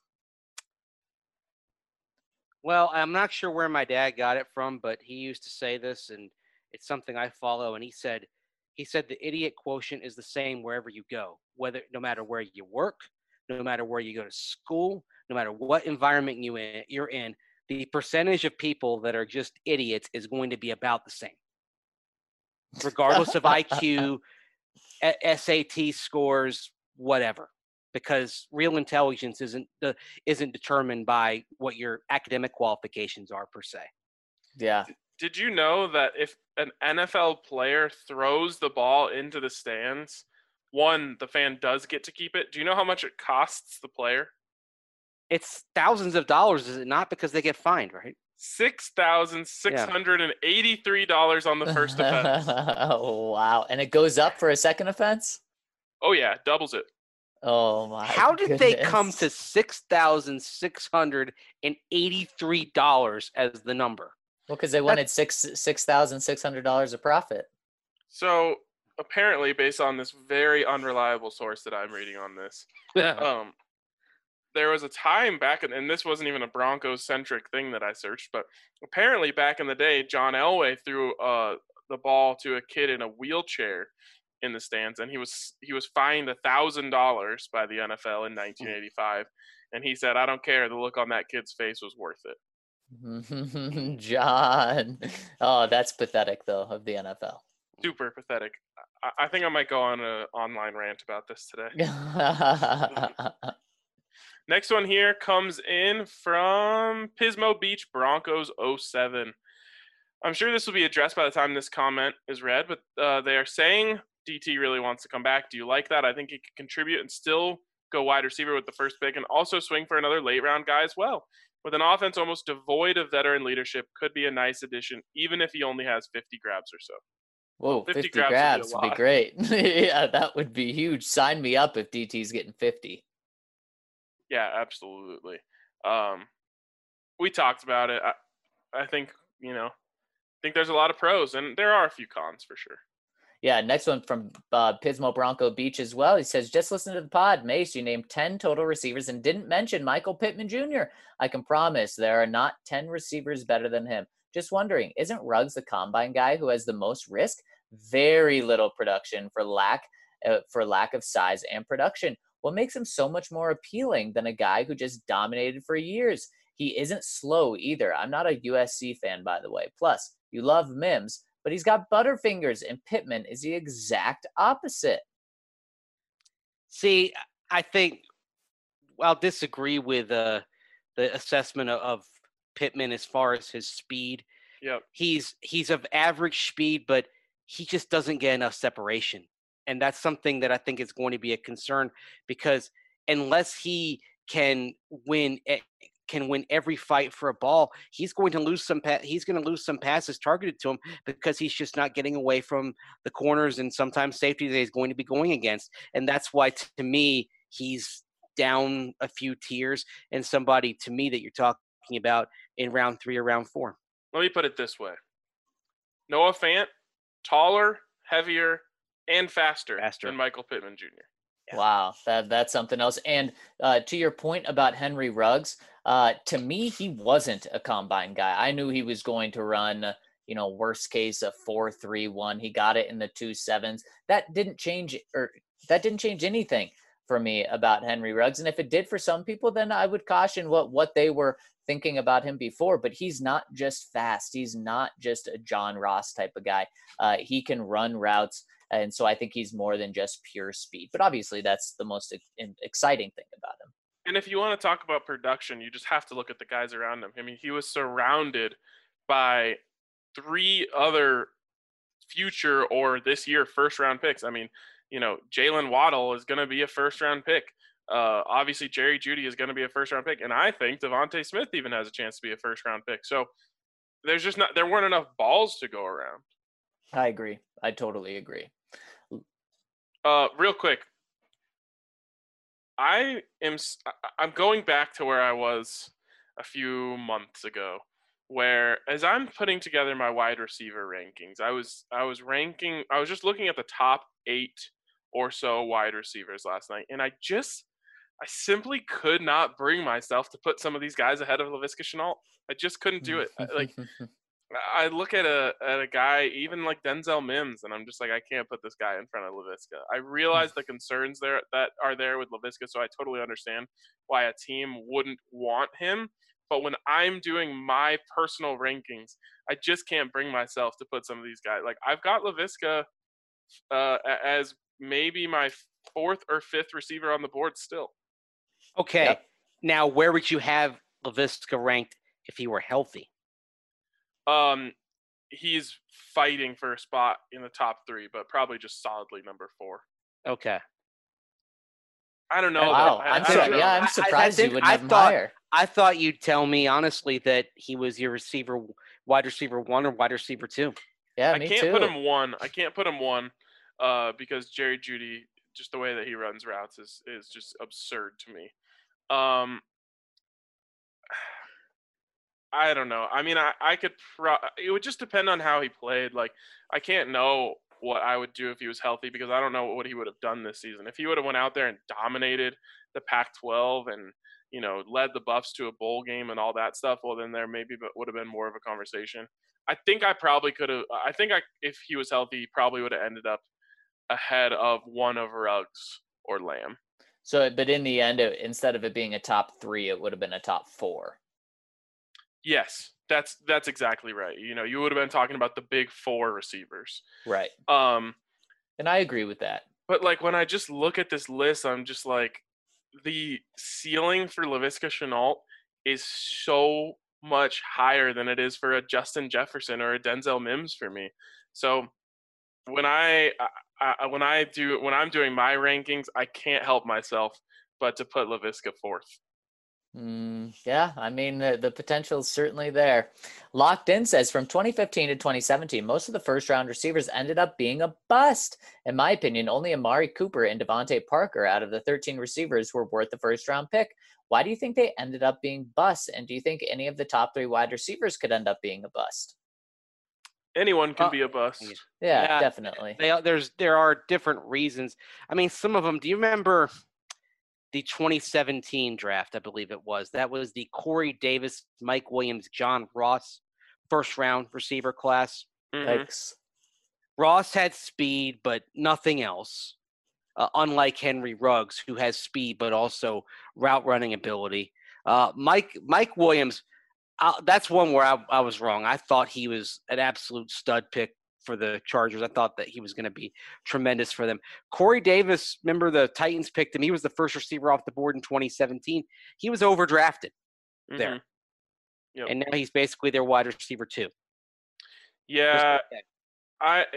Well, I'm not sure where my dad got it from, but he used to say this, and it's something I follow. And he said, he said the idiot quotient is the same wherever you go, whether no matter where you work, no matter where you go to school, no matter what environment you in, you're in, the percentage of people that are just idiots is going to be about the same, regardless of I Q, S A T scores, whatever. Because real intelligence isn't the isn't determined by what your academic qualifications are per se. Yeah. Did you know that if an N F L player throws the ball into the stands, one, the fan does get to keep it. Do you know how much it costs the player? It's thousands of dollars, is it not? Because they get fined, right? Six thousand six hundred and eighty-three dollars on the first offense. Wow. And it goes up for a second offense? Oh yeah, doubles it. Oh my How did goodness. they come to six thousand six hundred and eighty-three dollars as the number? Well, because they wanted six six thousand six hundred dollars of profit. So apparently, based on this very unreliable source that I'm reading on this, um, there was a time back, in, and this wasn't even a Broncos-centric thing that I searched, but apparently back in the day, John Elway threw uh, the ball to a kid in a wheelchair in the stands, and he was he was fined a thousand dollars by the N F L in nineteen eighty-five, and he said, "I don't care. The look on that kid's face was worth it." John, oh, that's pathetic though of the N F L. Super pathetic. I, I think I might go on an online rant about this today. Next one here comes in from Pismo Beach Broncos oh seven. I'm sure this will be addressed by the time this comment is read, but uh, they are saying D T really wants to come back. Do you like that? I think he could contribute and still go wide receiver with the first pick and also swing for another late round guy as well. With an offense almost devoid of veteran leadership, could be a nice addition, even if he only has fifty grabs or so. Whoa, fifty, fifty grabs, grabs would would be, be great. Yeah, that would be huge. Sign me up if D T's getting fifty. Yeah, absolutely. Um, we talked about it. I, I think, you know, I think there's a lot of pros, and there are a few cons for sure. Yeah, next one from uh, Pismo Bronco Beach as well. He says, just listen to the pod. Mace, you named ten total receivers and didn't mention Michael Pittman Junior I can promise there are not ten receivers better than him. Just wondering, isn't Ruggs the combine guy who has the most risk? Very little production for lack uh, for lack of size and production. What makes him so much more appealing than a guy who just dominated for years? He isn't slow either. I'm not a U S C fan, by the way. Plus, you love Mims, but he's got butterfingers, and Pittman is the exact opposite. See, I think I'll disagree with uh, the assessment of, of Pittman as far as his speed. Yep. He's he's of average speed, but he just doesn't get enough separation. And that's something that I think is going to be a concern, because unless he can win can win every fight for a ball, he's going to lose some pa- he's going to lose some passes targeted to him because he's just not getting away from the corners and sometimes safety that he's going to be going against. And that's why, to me, he's down a few tiers and somebody, to me, that you're talking about in round three or round four. Let me put it this way. Noah Fant, taller, heavier, and faster, faster. than Michael Pittman Junior Yeah. Wow, that that's something else. And uh, to your point about Henry Ruggs, uh, to me, he wasn't a combine guy. I knew he was going to run, you know, worst case a four three one. He got it in the two sevens. That didn't change, or that didn't change anything for me about Henry Ruggs. And if it did for some people, then I would caution what what they were thinking about him before. But he's not just fast. He's not just a John Ross type of guy. Uh, he can run routes. And so I think he's more than just pure speed. But obviously, that's the most exciting thing about him. And if you want to talk about production, you just have to look at the guys around him. I mean, he was surrounded by three other future or this year first-round picks. I mean, you know, Jalen Waddle is going to be a first-round pick. Uh, obviously, Jerry Jeudy is going to be a first-round pick. And I think Devontae Smith even has a chance to be a first-round pick. So there's just not – there weren't enough balls to go around. I agree. I totally agree. Uh, real quick, I am I'm going back to where I was a few months ago, where as I'm putting together my wide receiver rankings, I was I was ranking I was just looking at the top eight or so wide receivers last night, and I just I simply could not bring myself to put some of these guys ahead of Laviska Shenault. I just couldn't do it. Like. I look at a at a guy even like Denzel Mims, and I'm just like, I can't put this guy in front of Laviska. I realize the concerns there that are there with Laviska, so I totally understand why a team wouldn't want him. But when I'm doing my personal rankings, I just can't bring myself to put some of these guys. Like I've got Laviska uh, as maybe my fourth or fifth receiver on the board still. Okay, yep. Now where would you have Laviska ranked if he were healthy? Um, he's fighting for a spot in the top three, but probably just solidly number four. Okay. I don't know. Wow, I, I'm I so, don't know. yeah, I'm I- I surprised think- you wouldn't I have him thought- higher. I thought you'd tell me honestly that he was your receiver, wide receiver one or wide receiver two. Yeah, I me can't too. put him one. I can't put him one uh, because Jerry Jeudy, just the way that he runs routes is is just absurd to me. Um, I don't know. I mean, I, I could pro- it would just depend on how he played. Like, I can't know what I would do if he was healthy because I don't know what he would have done this season. If he would have went out there and dominated the Pac twelve and, you know, led the Buffs to a bowl game and all that stuff, well, then there maybe would have been more of a conversation. I think I probably could have – I think I, if he was healthy, he probably would have ended up ahead of one of Ruggs or Lamb. So, but in the end, it, instead of it being a top three, it would have been a top four. Yes, that's that's exactly right. You know, you would have been talking about the big four receivers. Right. Um, and I agree with that. But, like, when I just look at this list, I'm just like, the ceiling for Laviska Shenault is so much higher than it is for a Justin Jefferson or a Denzel Mims for me. So when I, I when I do when I'm doing my rankings, I can't help myself but to put Laviska fourth. Mm, yeah, I mean, the, the potential is certainly there. Locked In says from twenty fifteen to twenty seventeen, most of the first round receivers ended up being a bust. In my opinion, only Amari Cooper and Devontae Parker out of the thirteen receivers were worth the first round pick. Why do you think they ended up being busts? And do you think any of the top three wide receivers could end up being a bust? Anyone can Uh, be a bust. Yeah, Yeah, definitely. They, there's there are different reasons. I mean, some of them. Do you remember the twenty seventeen draft? I believe it was. That was the Corey Davis, Mike Williams, John Ross first round receiver class. Mhm. Yikes. Ross had speed, but nothing else. Uh, unlike Henry Ruggs, who has speed but also route running ability. Uh, Mike Mike Williams. Uh, that's one where I, I was wrong. I thought he was an absolute stud pick for the Chargers. I thought that he was going to be tremendous for them. Corey Davis, remember the Titans picked him. He was the first receiver off the board in twenty seventeen. He was overdrafted there. Mhm. Yep. And now he's basically their wide receiver too. Yeah, Okay. I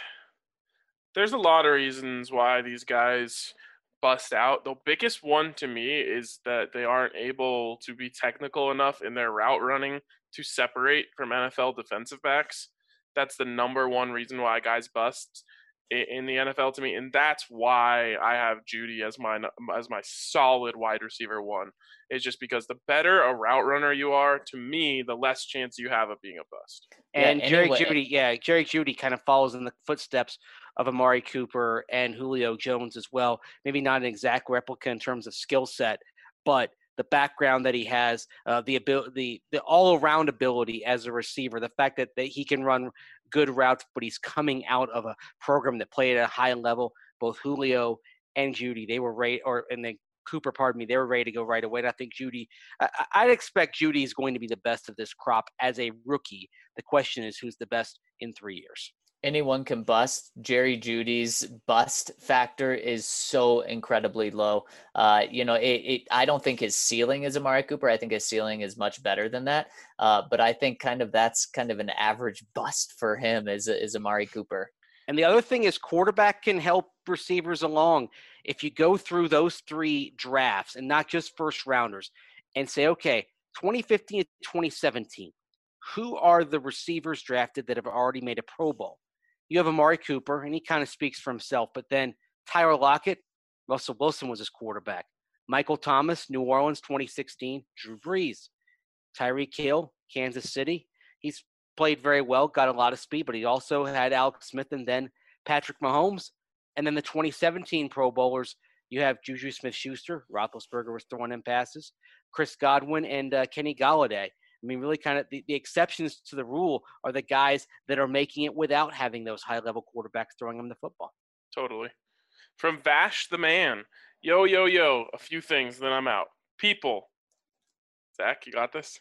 there's a lot of reasons why these guys bust out. The biggest one to me is that they aren't able to be technical enough in their route running to separate from N F L defensive backs. That's the number one reason why guys bust in the N F L to me, and that's why I have Jeudy as my as my solid wide receiver one. Is just because the better a route runner you are, to me, the less chance you have of being a bust. And Yeah, Jerry anyway- Jeudy, yeah, Jerry Jeudy kind of follows in the footsteps of Amari Cooper and Julio Jones as well. Maybe not an exact replica in terms of skill set, but the background that he has, uh, the ability, the, the all-around ability as a receiver, the fact that, that he can run good routes, but he's coming out of a program that played at a high level. Both Julio and Jeudy, they were ready, or and then Cooper, pardon me, they were ready to go right away. And I think Jeudy, I, I'd expect Jeudy is going to be the best of this crop as a rookie. The question is, who's the best in three years? Anyone can bust. Jerry Jeudy's bust factor is so incredibly low. Uh, you know, it, it. I don't think his ceiling is Amari Cooper. I think his ceiling is much better than that. Uh, but I think kind of that's kind of an average bust for him is is Amari Cooper. And the other thing is quarterback can help receivers along. If you go through those three drafts and not just first rounders and say, okay, twenty fifteen to twenty seventeen, who are the receivers drafted that have already made a Pro Bowl? You have Amari Cooper, and he kind of speaks for himself. But then Tyler Lockett, Russell Wilson was his quarterback. Michael Thomas, New Orleans, twenty sixteen. Drew Brees. Tyreek Hill, Kansas City. He's played very well, got a lot of speed, but he also had Alex Smith and then Patrick Mahomes. And then the twenty seventeen Pro Bowlers, you have Juju Smith-Schuster. Roethlisberger was throwing in passes. Chris Godwin and uh, Kenny Galladay. I mean, really kind of the, the exceptions to the rule are the guys that are making it without having those high-level quarterbacks throwing them the football. Totally. From Vash the man. Yo, yo, yo. A few things, then I'm out. People. Zach, you got this?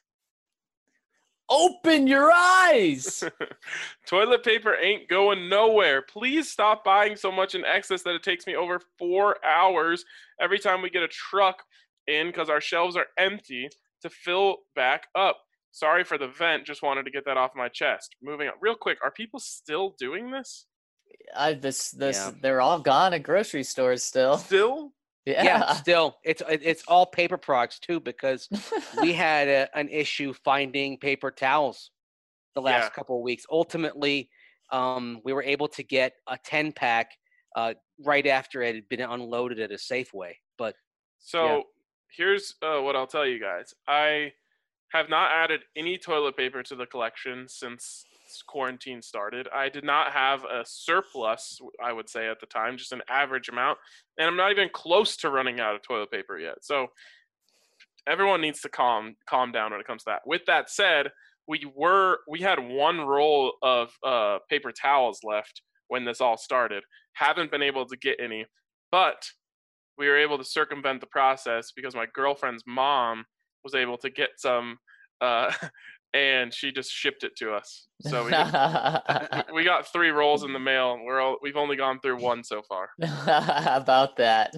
Open your eyes. Toilet paper ain't going nowhere. Please stop buying so much in excess that it takes me over four hours every time we get a truck in because our shelves are empty to fill back up. Sorry for the vent. Just wanted to get that off my chest. Moving on. Real quick, are people still doing this? I this this Yeah. they're all gone at grocery stores still. Still? Yeah. Yeah, still, it's it- it's all paper products too, because we had a, an issue finding paper towels the last Yeah. couple of weeks. Ultimately, um, we were able to get a ten pack uh, right after it had been unloaded at a Safeway. But So Yeah. here's uh, what I'll tell you guys. I have not added any toilet paper to the collection since quarantine started. I did not have a surplus, I would say at the time, just an average amount. And I'm not even close to running out of toilet paper yet. So everyone needs to calm calm down when it comes to that. With that said, we were we had one roll of uh, paper towels left when this all started. Haven't been able to get any, but we were able to circumvent the process because my girlfriend's mom was able to get some, uh, and she just shipped it to us. So we got, we got three rolls in the mail. And we're all, we've only gone through one so far. How about that?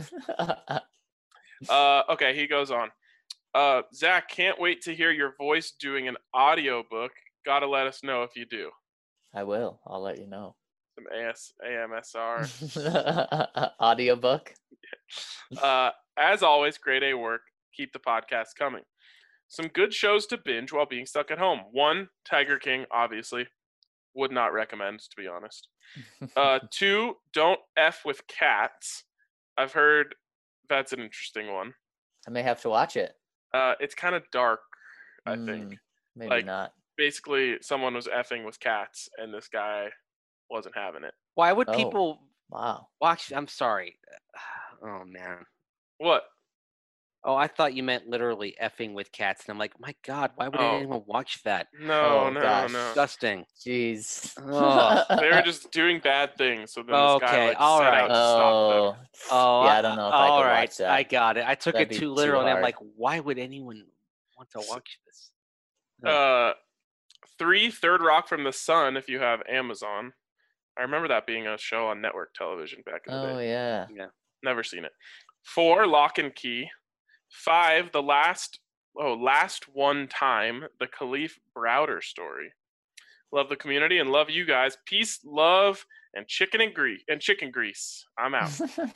Uh, okay, he goes on. Uh, Zach, can't wait to hear your voice doing an audiobook. Gotta let us know if you do. I will. I'll let you know. Some A S A M S R. Audiobook. Uh, as always, grade A work. Keep the podcast coming. Some good shows to binge while being stuck at home. One, Tiger King, obviously. Would not recommend, to be honest. Uh, two, Don't F with Cats. I've heard that's an interesting one. I may have to watch it. Uh, it's kind of dark, I Mm, think. Maybe like- not. Basically, someone was effing with cats, and this guy wasn't having it. why would Oh. people Wow. watch? I'm sorry. Oh man. What? Oh, I thought you meant literally effing with cats, and I'm like, my God, why would Oh. anyone watch that? No, Oh, no, gosh. no. Disgusting. Jeez. Ugh. They were just doing bad things, so then this guy Okay, like all set right. out to stop them. Oh. Oh, Yeah, I don't know if I all could right, watch that. I got it. I took That'd it be too too literal, and I'm hard. like, why would anyone want to S- watch this? Uh, three, Third Rock from the Sun, if you have Amazon. I remember that being a show on network television back in the Oh day. yeah. Never seen it. Four, Lock and Key. Five, the last oh last one time, the Khalif Browder story. Love the community and love you guys. Peace, love, and chicken and grease and chicken grease. I'm out.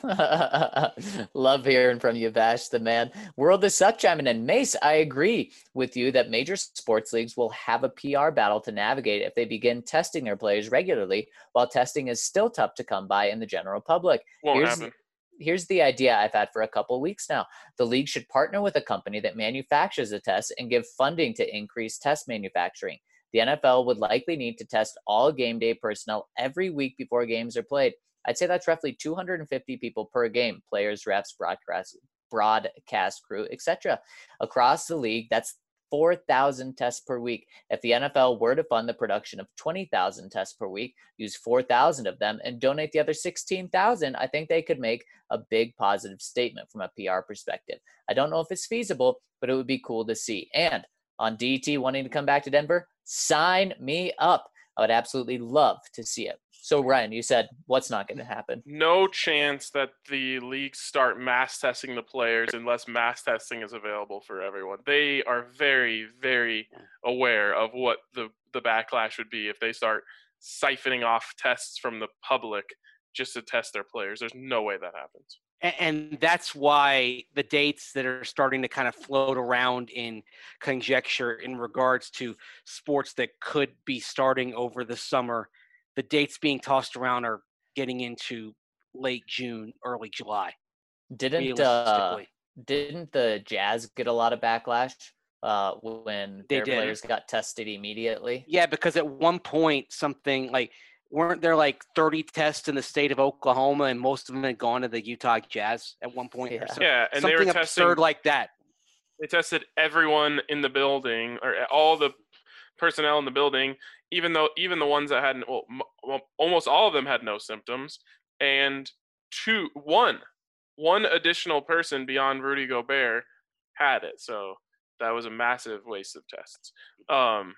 Love hearing from you, Vash, the man. World is Suck chiming in. Mace, I agree with you that major sports leagues will have a P R battle to navigate if they begin testing their players regularly, while testing is still tough to come by in the general public. Won't Here's- happen. Here's the idea I've had for a couple weeks now. The league should partner with a company that manufactures a test and give funding to increase test manufacturing. The N F L would likely need to test all game day personnel every week before games are played. I'd say that's roughly two hundred fifty people per game, players, refs, broadcast, broadcast crew, et cetera. Across the league, that's four thousand tests per week. If the N F L were to fund the production of twenty thousand tests per week, use four thousand of them, and donate the other sixteen thousand, I think they could make a big positive statement from a P R perspective. I don't know if it's feasible, but it would be cool to see. And on D T wanting to come back to Denver, sign me up. I would absolutely love to see it. So, Ryan, you said what's not going to happen? No chance that the leagues start mass testing the players unless mass testing is available for everyone. They are very, very aware of what the, the backlash would be if they start siphoning off tests from the public just to test their players. There's no way that happens. And, and that's why the dates that are starting to kind of float around in conjecture in regards to sports that could be starting over the summer, the dates being tossed around are getting into late June, early July. Didn't uh, Realistically, didn't the Jazz get a lot of backlash uh, when They their did. players got tested immediately? yeah, because at one point something like weren't there like thirty tests in the state of Oklahoma, and most of them had gone to the Utah Jazz at one point, Yeah. or so, Yeah, and they something were testing. absurd like that. They tested everyone in the building, or all the personnel in the building, even though even the ones that had well, m- well, almost all of them had no symptoms, and two, one, one additional person beyond Rudy Gobert had it. So that was a massive waste of tests. Um,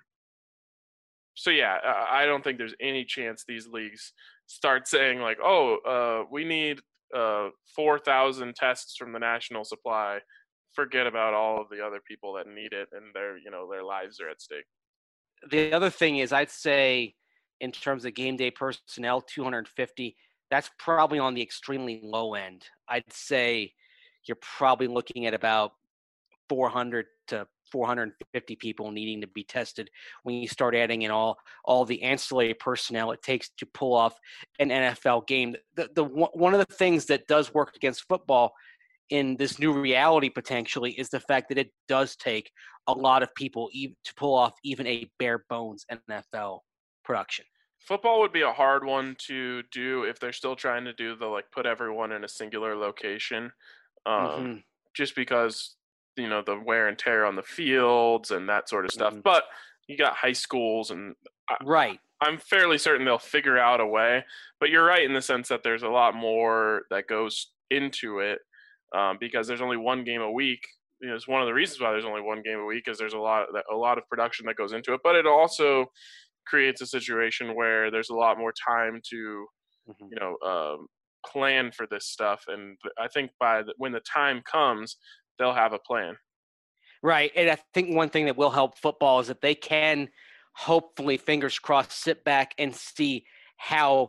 so yeah, I I don't think there's any chance these leagues start saying like, oh, uh, we need uh, four thousand tests from the national supply, forget about all of the other people that need it and their, you know, their lives are at stake. The other thing is, I'd say in terms of game day personnel, two hundred fifty, that's probably on the extremely low end. I'd say you're probably looking at about four hundred to four hundred fifty people needing to be tested when you start adding in all all the ancillary personnel it takes to pull off an N F L game. The, the one of the things that does work against football in this new reality potentially is the fact that it does take a lot of people even to pull off even a bare bones N F L production. Football would be a hard one to do if they're still trying to do the like put everyone in a singular location, um, Mhm. just because you know the wear and tear on the fields and that sort of stuff. Mhm. But you got high schools, and I, Right. I'm fairly certain they'll figure out a way. But you're right in the sense that there's a lot more that goes into it, um, because there's only one game a week. You know, it's one of the reasons why there's only one game a week is there's a lot a lot of production that goes into it. But it also creates a situation where there's a lot more time to, Mhm. you know, um, plan for this stuff. And I think by the, when the time comes, they'll have a plan. Right. And I think one thing that will help football is that they can hopefully, fingers crossed, sit back and see how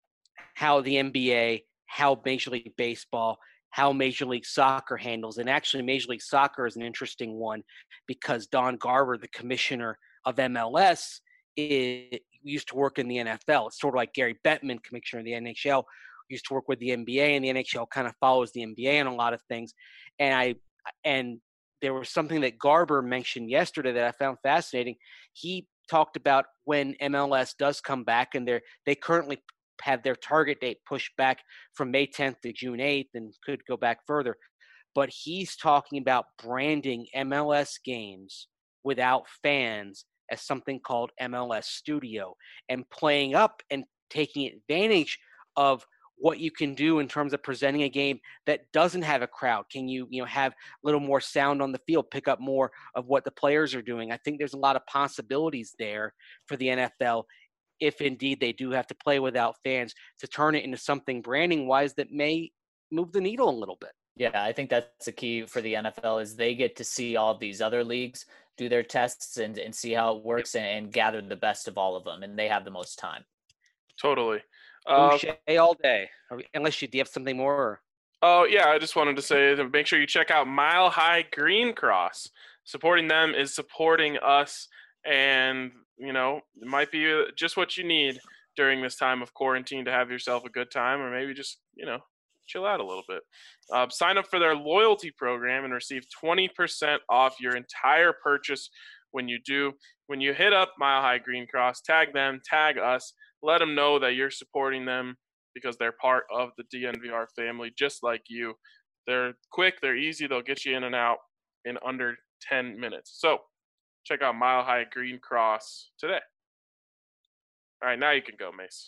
how the N B A, how Major League Baseball, how Major League Soccer handles. And actually, Major League Soccer is an interesting one because Don Garber, the commissioner of M L S, is, used to work in the N F L. It's sort of like Gary Bettman, commissioner of the N H L, used to work with the N B A, and the N H L kind of follows the N B A in a lot of things. And I and there was something that Garber mentioned yesterday that I found fascinating. He talked about when M L S does come back, and they're they currently have their target date pushed back from May tenth to June eighth and could go back further. But he's talking about branding M L S games without fans as something called M L S Studio and playing up and taking advantage of what you can do in terms of presenting a game that doesn't have a crowd. Can you, you know, have a little more sound on the field, pick up more of what the players are doing? I think there's a lot of possibilities there for the N F L if indeed they do have to play without fans to turn it into something branding wise that may move the needle a little bit. Yeah, I think that's the key for the N F L is they get to see all of these other leagues do their tests and, and see how it works and, and gather the best of all of them, and they have the most time. Totally. Uh, Boucher all day, unless you do you have something more. Or... Oh, yeah, I just wanted to say to make sure you check out Mile High Green Cross. Supporting them is supporting us, and, you know, it might be just what you need during this time of quarantine to have yourself a good time, or maybe just, you know, chill out a little bit. Uh, sign up for their loyalty program and receive twenty percent off your entire purchase when you do. When you hit up Mile High Green Cross, tag them, tag us, let them know that you're supporting them because they're part of the D N V R family, just like you. They're quick, they're easy, they'll get you in and out in under ten minutes. So check out Mile High Green Cross today. All right, now you can go, Mace.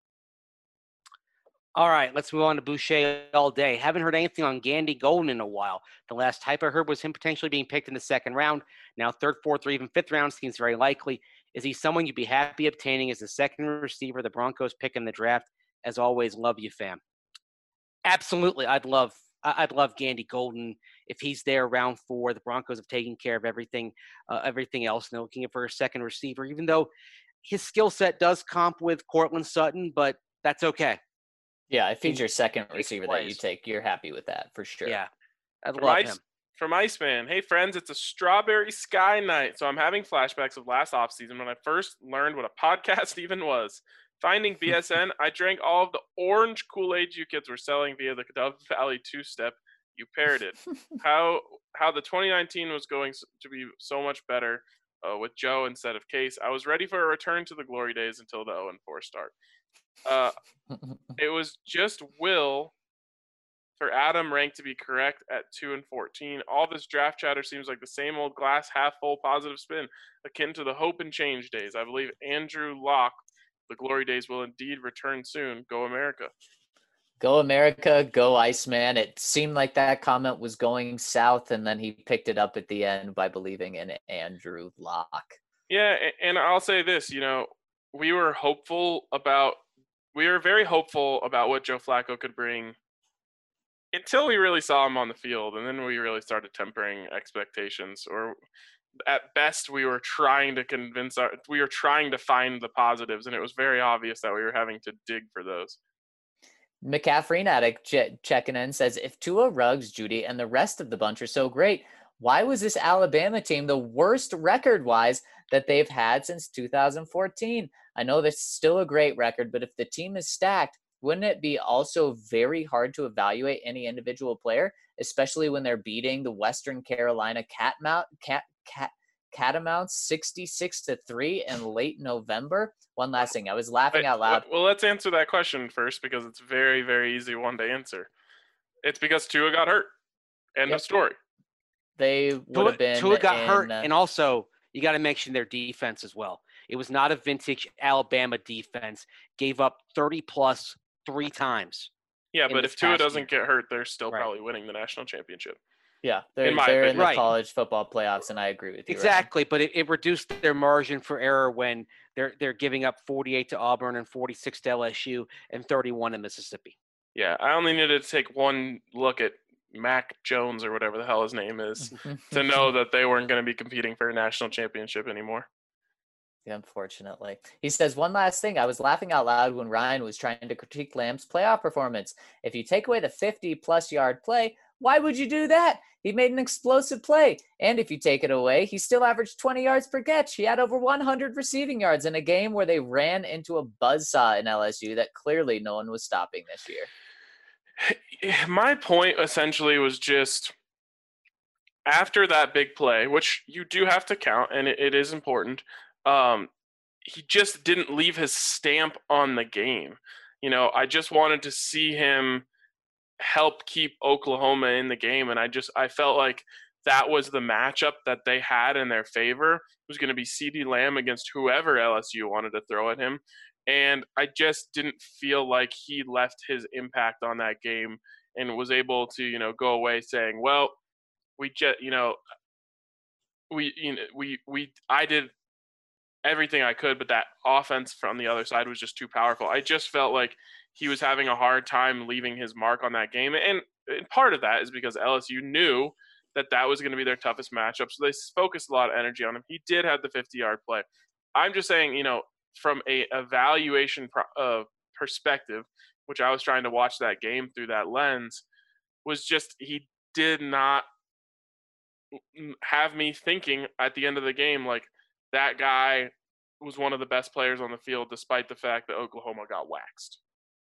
All right, let's move on to Boucher all day. Haven't heard anything on Gandy Golden in a while. The last hype I heard was him potentially being picked in the second round. Now third, fourth, or even fifth round seems very likely. Is he someone you'd be happy obtaining as the second receiver the Broncos pick in the draft? As always, love you, fam. Absolutely, I'd love I'd love Gandy Golden if he's there round four. The Broncos have taken care of everything, uh, everything else, and they're looking for a second receiver. Even though his skill set does comp with Cortland Sutton, but that's okay. Yeah, if he's your second receiver that you take, you're happy with that for sure. Yeah, I'd From love Ice, him. From Iceman, hey friends, it's a strawberry sky night. So I'm having flashbacks of last offseason when I first learned what a podcast even was. Finding B S N, I drank all of the orange Kool-Aid you kids were selling via the Dove Valley two-step. You paired it. how how the twenty nineteen was going to be so much better uh, with Joe instead of Case. I was ready for a return to the glory days until the oh and four start. Uh, it was just Will for Adam ranked to be correct at two and fourteen. All this draft chatter seems like the same old glass half full positive spin, akin to the hope and change days. I believe Andrew Locke, the glory days will indeed return soon. Go America. Go America, go Iceman. It seemed like that comment was going south, and then he picked it up at the end by believing in Andrew Locke. Yeah, and I'll say this, you know, we were hopeful about, we were very hopeful about what Joe Flacco could bring until we really saw him on the field, and then we really started tempering expectations. Or at best, we were trying to convince our we were trying to find the positives, and it was very obvious that we were having to dig for those. McCaffrey addict ch- checking in says, if Tua, Ruggs, Judy, and the rest of the bunch are so great, why was this Alabama team the worst record-wise that they've had since two thousand fourteen? I know that's still a great record, but if the team is stacked, wouldn't it be also very hard to evaluate any individual player, especially when they're beating the Western Carolina Catmount, Cat, Cat, Catamounts sixty-six to three in late November? One last thing. I was laughing Wait, out loud. Well, let's answer that question first because it's very, very easy one to answer. It's because Tua got hurt. End Yep. of story. They would Tua, have been Tua got in, hurt, uh, and also you got to mention their defense as well. It was not a vintage Alabama defense. Gave up thirty plus three times. Yeah, in but this if Tua past doesn't year. get hurt, they're still Right. probably winning the national championship. yeah, they're, in my they're in opinion. the Right. college football playoffs, and I agree with you. Ryan. Exactly, but it, it reduced their margin for error when they're they're giving up forty-eight to Auburn and forty-six to L S U and thirty-one to Mississippi. Yeah, I only needed to take one look at Mac Jones or whatever the hell his name is to know that they weren't going to be competing for a national championship anymore. Yeah, unfortunately. He says, one last thing. I was laughing out loud when Ryan was trying to critique Lamb's playoff performance. If you take away the fifty-plus yard play, why would you do that? He made an explosive play. And if you take it away, he still averaged twenty yards per catch. He had over one hundred receiving yards in a game where they ran into a buzzsaw in L S U that clearly no one was stopping this year. My point essentially was just after that big play, which you do have to count, and it, it is important, um, he just didn't leave his stamp on the game. You know, I just wanted to see him help keep Oklahoma in the game, and I just I felt like that was the matchup that they had in their favor. It was going to be CeeDee Lamb against whoever L S U wanted to throw at him, and I just didn't feel like he left his impact on that game and was able to, you know, go away saying, well, we just, you know, we, you know, we, we, I did everything I could, but that offense from the other side was just too powerful. I just felt like he was having a hard time leaving his mark on that game. And, and part of that is because L S U knew that that was going to be their toughest matchup. So they focused a lot of energy on him. He did have the fifty-yard play. I'm just saying, you know, from a evaluation pro- uh, perspective, which I was trying to watch that game through that lens, was just he did not have me thinking at the end of the game like that guy was one of the best players on the field despite the fact that Oklahoma got waxed.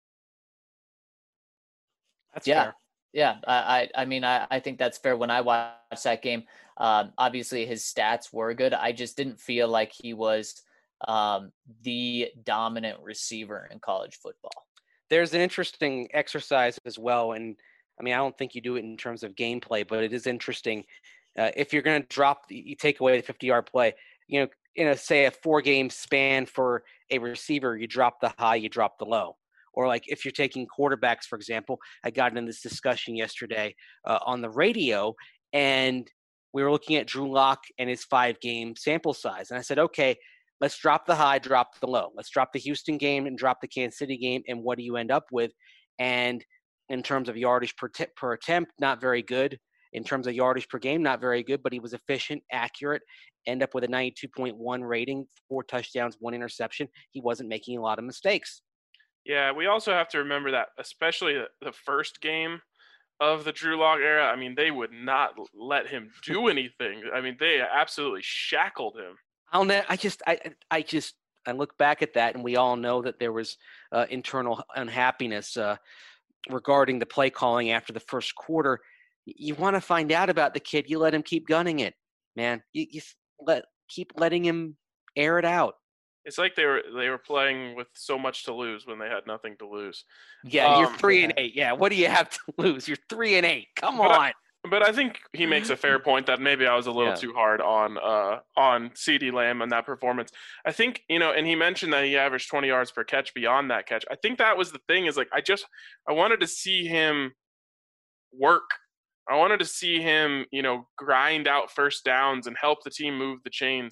That's Yeah. fair. Yeah, I, I I mean, I, I think that's fair. When I watched that game, um, obviously his stats were good. I just didn't feel like he was um, the dominant receiver in college football. There's an interesting exercise as well, and I mean, I don't think you do it in terms of gameplay, but it is interesting. Uh, if you're going to drop, you take away the fifty-yard play, you know, in a, say, a four-game span for a receiver, you drop the high, you drop the low. Or like if you're taking quarterbacks, for example, I got in this discussion yesterday uh, on the radio, and we were looking at Drew Lock and his five-game sample size. And I said, okay, let's drop the high, drop the low. Let's drop the Houston game and drop the Kansas City game, and what do you end up with? And in terms of yardage per, t- per attempt, not very good. In terms of yardage per game, not very good, but he was efficient, accurate, end up with a ninety-two point one rating, four touchdowns, one interception. He wasn't making a lot of mistakes. Yeah, we also have to remember that, especially the first game of the Drew Lock era, I mean, they would not let him do anything. I mean, they absolutely shackled him. I'll ne- I just, I, I just, I look back at that, and we all know that there was uh, internal unhappiness uh, regarding the play calling after the first quarter. You want to find out about the kid, you let him keep gunning it, man. You, you let keep letting him air it out. It's like they were they were playing with so much to lose when they had nothing to lose. Yeah, you're Um, three and eight. Yeah, what do you have to lose? You're three and eight. Come But I- on. But I think he makes a fair point that maybe I was a little Yeah. too hard on uh, on CeeDee Lamb and that performance. I think, you know, and he mentioned that he averaged twenty yards per catch beyond that catch. I think that was the thing is like I just I wanted to see him work. I wanted to see him, you know, grind out first downs and help the team move the chains.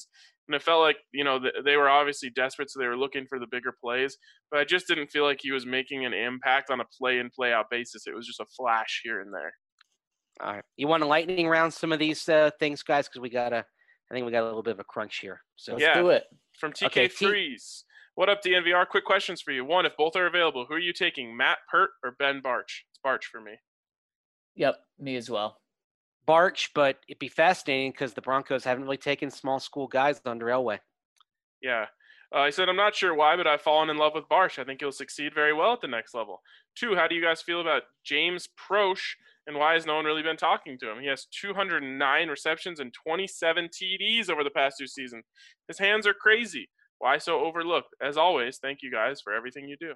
And it felt like, you know, they were obviously desperate, so they were looking for the bigger plays. But I just didn't feel like he was making an impact on a play-in, play-out basis. It was just a flash here and there. All right. You want to lightning round some of these uh, things, guys? Because we got to – I think we got a little bit of a crunch here. So Let's yeah, do it. From T K threes. Okay, what up, D N V R? Quick questions for you. One, if both are available, who are you taking, Matt Peart or Ben Bartch? It's Bartch for me. Yep, me as well. Bartch, but it'd be fascinating because the Broncos haven't really taken small school guys under Elway. Yeah. Uh, I said, I'm not sure why, but I've fallen in love with Bartch. I think he'll succeed very well at the next level. Two, how do you guys feel about James Proche, and why has no one really been talking to him? He has two hundred nine receptions and twenty-seven T Ds over the past two seasons. His hands are crazy. Why so overlooked? As always, thank you guys for everything you do.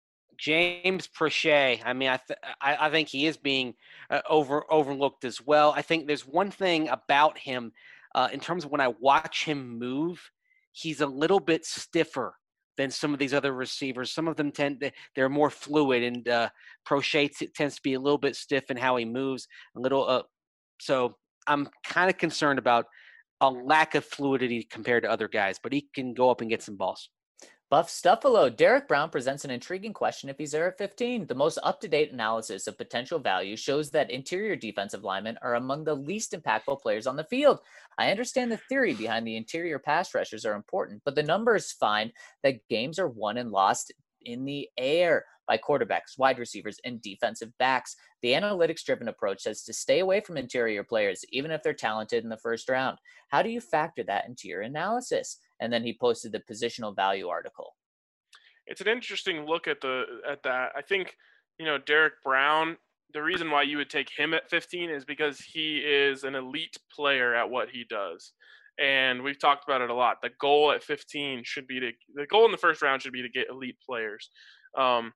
James Proche, I mean, I, th- I I think he is being uh, over overlooked as well. I think there's one thing about him uh, in terms of when I watch him move, he's a little bit stiffer than some of these other receivers. Some of them tend to, they're more fluid, and uh, Proche t- tends to be a little bit stiff in how he moves. A little, uh, so I'm kind of concerned about a lack of fluidity compared to other guys, but he can go up and get some balls. Buff Stuffalo, Derek Brown presents an intriguing question if he's there at fifteen. The most up-to-date analysis of potential value shows that interior defensive linemen are among the least impactful players on the field. I understand the theory behind the interior pass rushers are important, but the numbers find that games are won and lost in the air by quarterbacks, wide receivers, and defensive backs. The analytics-driven approach says to stay away from interior players, even if they're talented in the first round. How do you factor that into your analysis? And then he posted the positional value article. It's an interesting look at the at that. I think, you know, Derek Brown, the reason why you would take him at fifteen is because he is an elite player at what he does. And we've talked about it a lot. The goal at fifteen should be to the goal in the first round should be to get elite players. Um,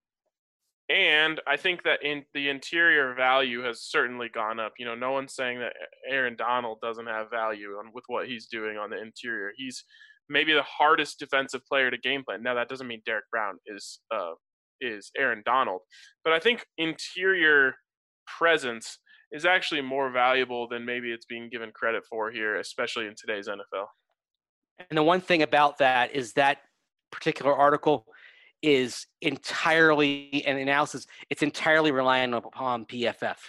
and I think that in the interior value has certainly gone up. You know, no one's saying that Aaron Donald doesn't have value on with what he's doing on the interior. He's maybe the hardest defensive player to game plan. Now, that doesn't mean Derek Brown is uh, is Aaron Donald, but I think interior presence is actually more valuable than maybe it's being given credit for here, especially in today's N F L. And the one thing about that is that particular article is entirely an analysis. It's entirely reliant upon P F F.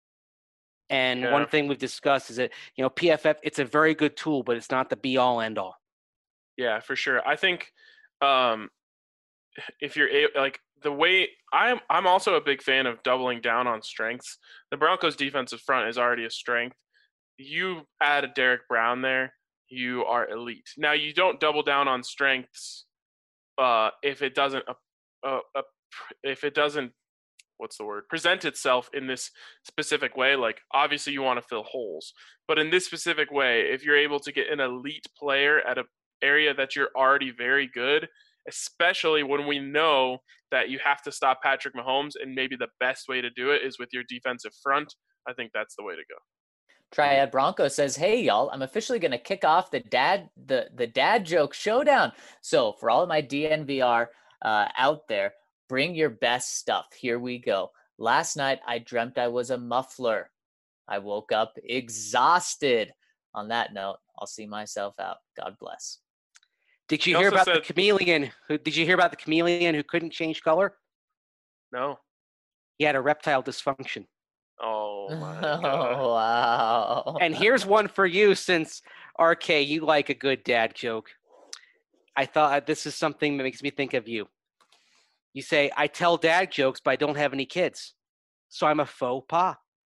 And yeah. One thing we've discussed is that, you know, P F F, it's a very good tool, but it's not the be all end all. Yeah, for sure. I think um, if you're like the way I'm, I'm also a big fan of doubling down on strengths. The Broncos defensive front is already a strength. You add a Derek Brown there, you are elite. Now you don't double down on strengths uh, if it doesn't, uh, uh, uh, if it doesn't, what's the word, present itself in this specific way. Like obviously you want to fill holes, but in this specific way, if you're able to get an elite player at a area that you're already very good, especially when we know that you have to stop Patrick Mahomes, and maybe the best way to do it is with your defensive front, I think that's the way to go. Triad Bronco says, hey, y'all, I'm officially going to kick off the dad the, the dad joke showdown. So for all of my D N V R uh, out there, bring your best stuff. Here we go. Last night, I dreamt I was a muffler. I woke up exhausted. On that note, I'll see myself out. God bless. Did you He hear also about said- the chameleon? Who did you hear about the chameleon who couldn't change color? No. He had a reptile dysfunction. Oh, my Oh, God. wow. And here's one for you, since R K, you like a good dad joke. I thought this is something that makes me think of you. You say, I tell dad jokes, but I don't have any kids. So I'm a faux pas.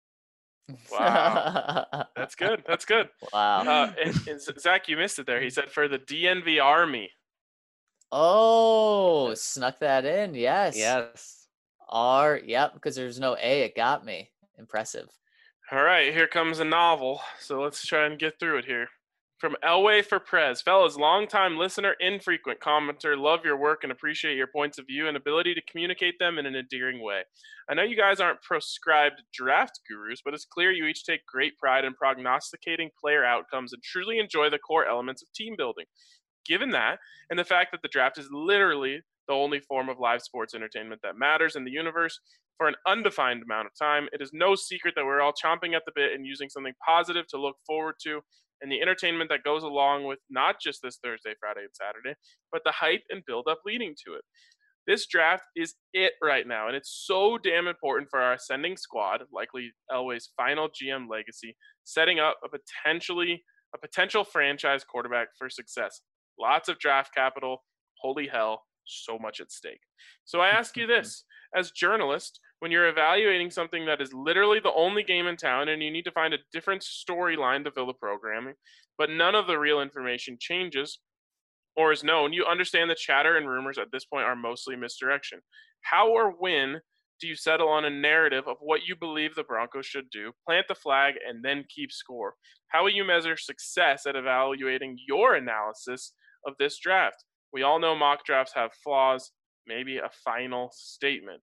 Wow. That's good. That's good. Wow. Uh, and, and Zach, you missed it there. He said for the D N V Army. Oh, snuck that in. Yes. Yes. R. Yep. Because there's no A. It got me. Impressive. All right, here comes a novel. So let's try and get through it here. From Elway for Prez. Fellas, longtime listener, infrequent commenter, love your work and appreciate your points of view and ability to communicate them in an endearing way. I know you guys aren't prescribed draft gurus, but it's clear you each take great pride in prognosticating player outcomes and truly enjoy the core elements of team building. Given that, and the fact that the draft is literally the only form of live sports entertainment that matters in the universe, for an undefined amount of time. It is no secret that we're all chomping at the bit and using something positive to look forward to, and the entertainment that goes along with not just this Thursday, Friday, and Saturday, but the hype and build-up leading to it. This draft is it right now, and it's so damn important for our ascending squad, likely Elway's final G M legacy, setting up a potentially a potential franchise quarterback for success. Lots of draft capital. Holy hell, so much at stake. So I ask you this, as journalist, when you're evaluating something that is literally the only game in town and you need to find a different storyline to fill the programming, but none of the real information changes or is known, you understand the chatter and rumors at this point are mostly misdirection. How or when do you settle on a narrative of what you believe the Broncos should do, plant the flag, and then keep score? How will you measure success at evaluating your analysis of this draft? We all know mock drafts have flaws, maybe a final statement.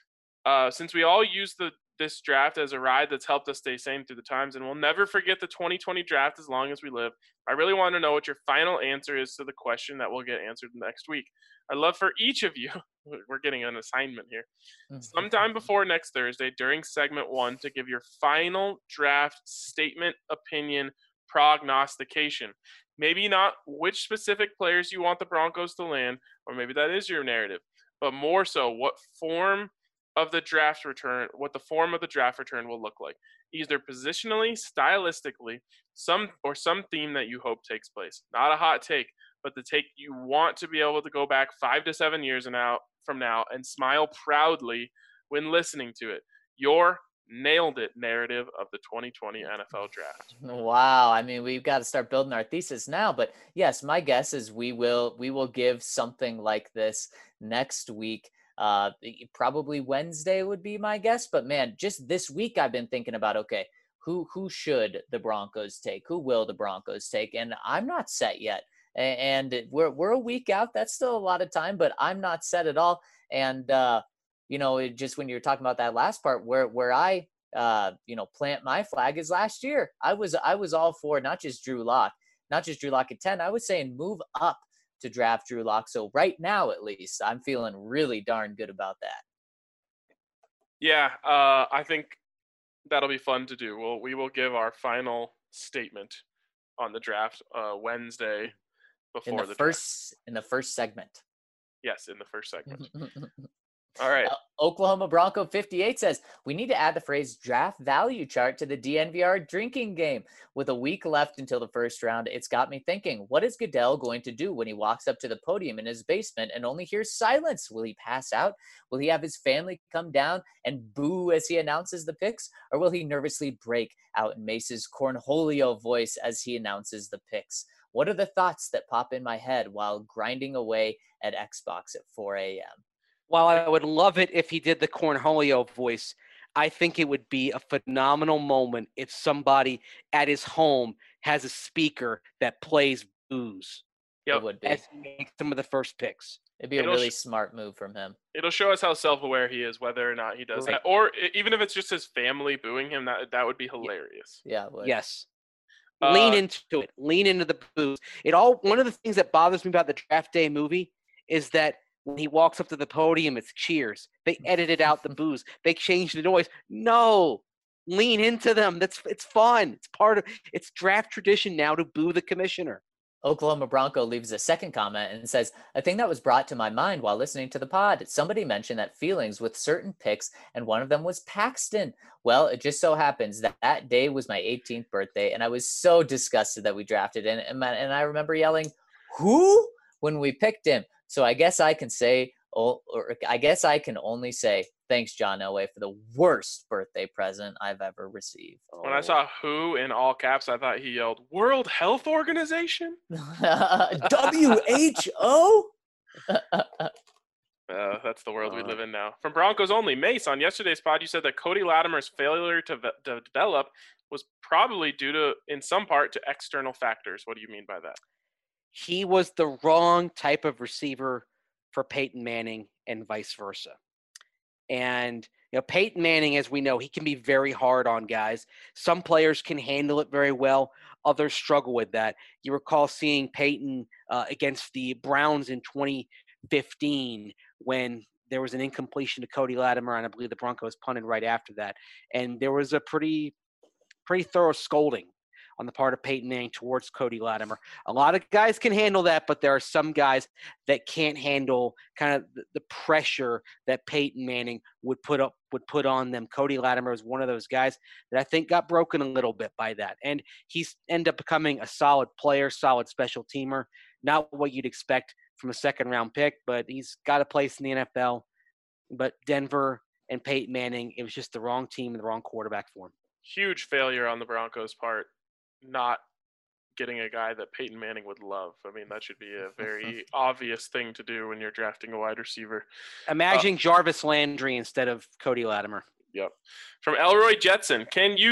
Uh, since we all use the this draft as a ride that's helped us stay sane through the times, and we'll never forget the twenty twenty draft as long as we live, I really want to know what your final answer is to the question that will get answered next week. I'd love for each of you, we're getting an assignment here, sometime before next Thursday during segment one to give your final draft statement, opinion, prognostication. Maybe not which specific players you want the Broncos to land, or maybe that is your narrative, but more so what form of the draft return, what the form of the draft return will look like, either positionally, stylistically, some or some theme that you hope takes place. Not a hot take, but the take you want to be able to go back five to seven years and out from now and smile proudly when listening to it. Your nailed it narrative of the twenty twenty N F L draft. Wow. I mean, we've got to start building our thesis now, but yes, my guess is we will, we will give something like this next week. Uh, probably Wednesday would be my guess, but man, just this week I've been thinking about, okay, who, who should the Broncos take? Who will the Broncos take? And I'm not set yet. And we're, we're a week out. That's still a lot of time, but I'm not set at all. And, uh, you know, it just, when you're talking about that last part where, where I, uh, you know, plant my flag is last year. I was, I was all for not just Drew Lock, not just Drew Lock at ten. I was saying move up to draft Drew Lock. So right now, at least, I'm feeling really darn good about that. Yeah, uh, I think that'll be fun to do. We'll, we will give our final statement on the draft uh, Wednesday before in the, the first draft. in the first segment. Yes, in the first segment. All right. Uh, Oklahoma Bronco fifty-eight says, we need to add the phrase draft value chart to the D N V R drinking game. With a week left until the first round, it's got me thinking, what is Goodell going to do when he walks up to the podium in his basement and only hears silence? Will he pass out? Will he have his family come down and boo as he announces the picks? Or will he nervously break out in Mace's Cornholio voice as he announces the picks? What are the thoughts that pop in my head while grinding away at Xbox at four a.m.? While I would love it if he did the Cornholio voice, I think it would be a phenomenal moment if somebody at his home has a speaker that plays booze. Yep. It would be. As he makes some of the first picks. It'd be a It'll really sh- smart move from him. It'll show us how self-aware he is, whether or not he does Right. that. Or i- even if it's just his family booing him, that that would be hilarious. Yeah, it would. Yes. Uh, Lean into it. Lean into the booze. It all. One of the things that bothers me about the draft day movie is that when he walks up to the podium, it's cheers. They edited out the booze. They changed the noise. No, lean into them. That's it's fun. It's part of it's draft tradition now to boo the commissioner. Oklahoma Bronco leaves a second comment and says, a thing that was brought to my mind while listening to the pod. Somebody mentioned that feelings with certain picks, and one of them was Paxton. Well, it just so happens that that day was my eighteenth birthday, and I was so disgusted that we drafted him. And, and I remember yelling, who? When we picked him. So I guess I can say, or I guess I can only say, thanks, John Elway, for the worst birthday present I've ever received. When I saw who in all caps, I thought he yelled, World Health Organization? W H O? Uh, that's the world we live in now. From Broncos Only, Mace, on yesterday's pod, you said that Cody Latimer's failure to, ve- to develop was probably due to, in some part, to external factors. What do you mean by that? He was the wrong type of receiver for Peyton Manning and vice versa. And, you know, Peyton Manning, as we know, he can be very hard on guys. Some players can handle it very well. Others struggle with that. You recall seeing Peyton uh, against the Browns in twenty fifteen when there was an incompletion to Cody Latimer, and I believe the Broncos punted right after that. And there was a pretty, pretty thorough scolding on the part of Peyton Manning towards Cody Latimer. A lot of guys can handle that, but there are some guys that can't handle kind of the, the pressure that Peyton Manning would put up would put on them. Cody Latimer was one of those guys that I think got broken a little bit by that. And he's ended up becoming a solid player, solid special teamer. Not what you'd expect from a second round pick, but he's got a place in the N F L. But Denver and Peyton Manning, it was just the wrong team and the wrong quarterback for him. Huge failure on the Broncos' part, not getting a guy that Peyton Manning would love. I mean, that should be a very obvious thing to do when you're drafting a wide receiver. Imagine uh, Jarvis Landry instead of Cody Latimer. Yep. From Elroy Jetson, can you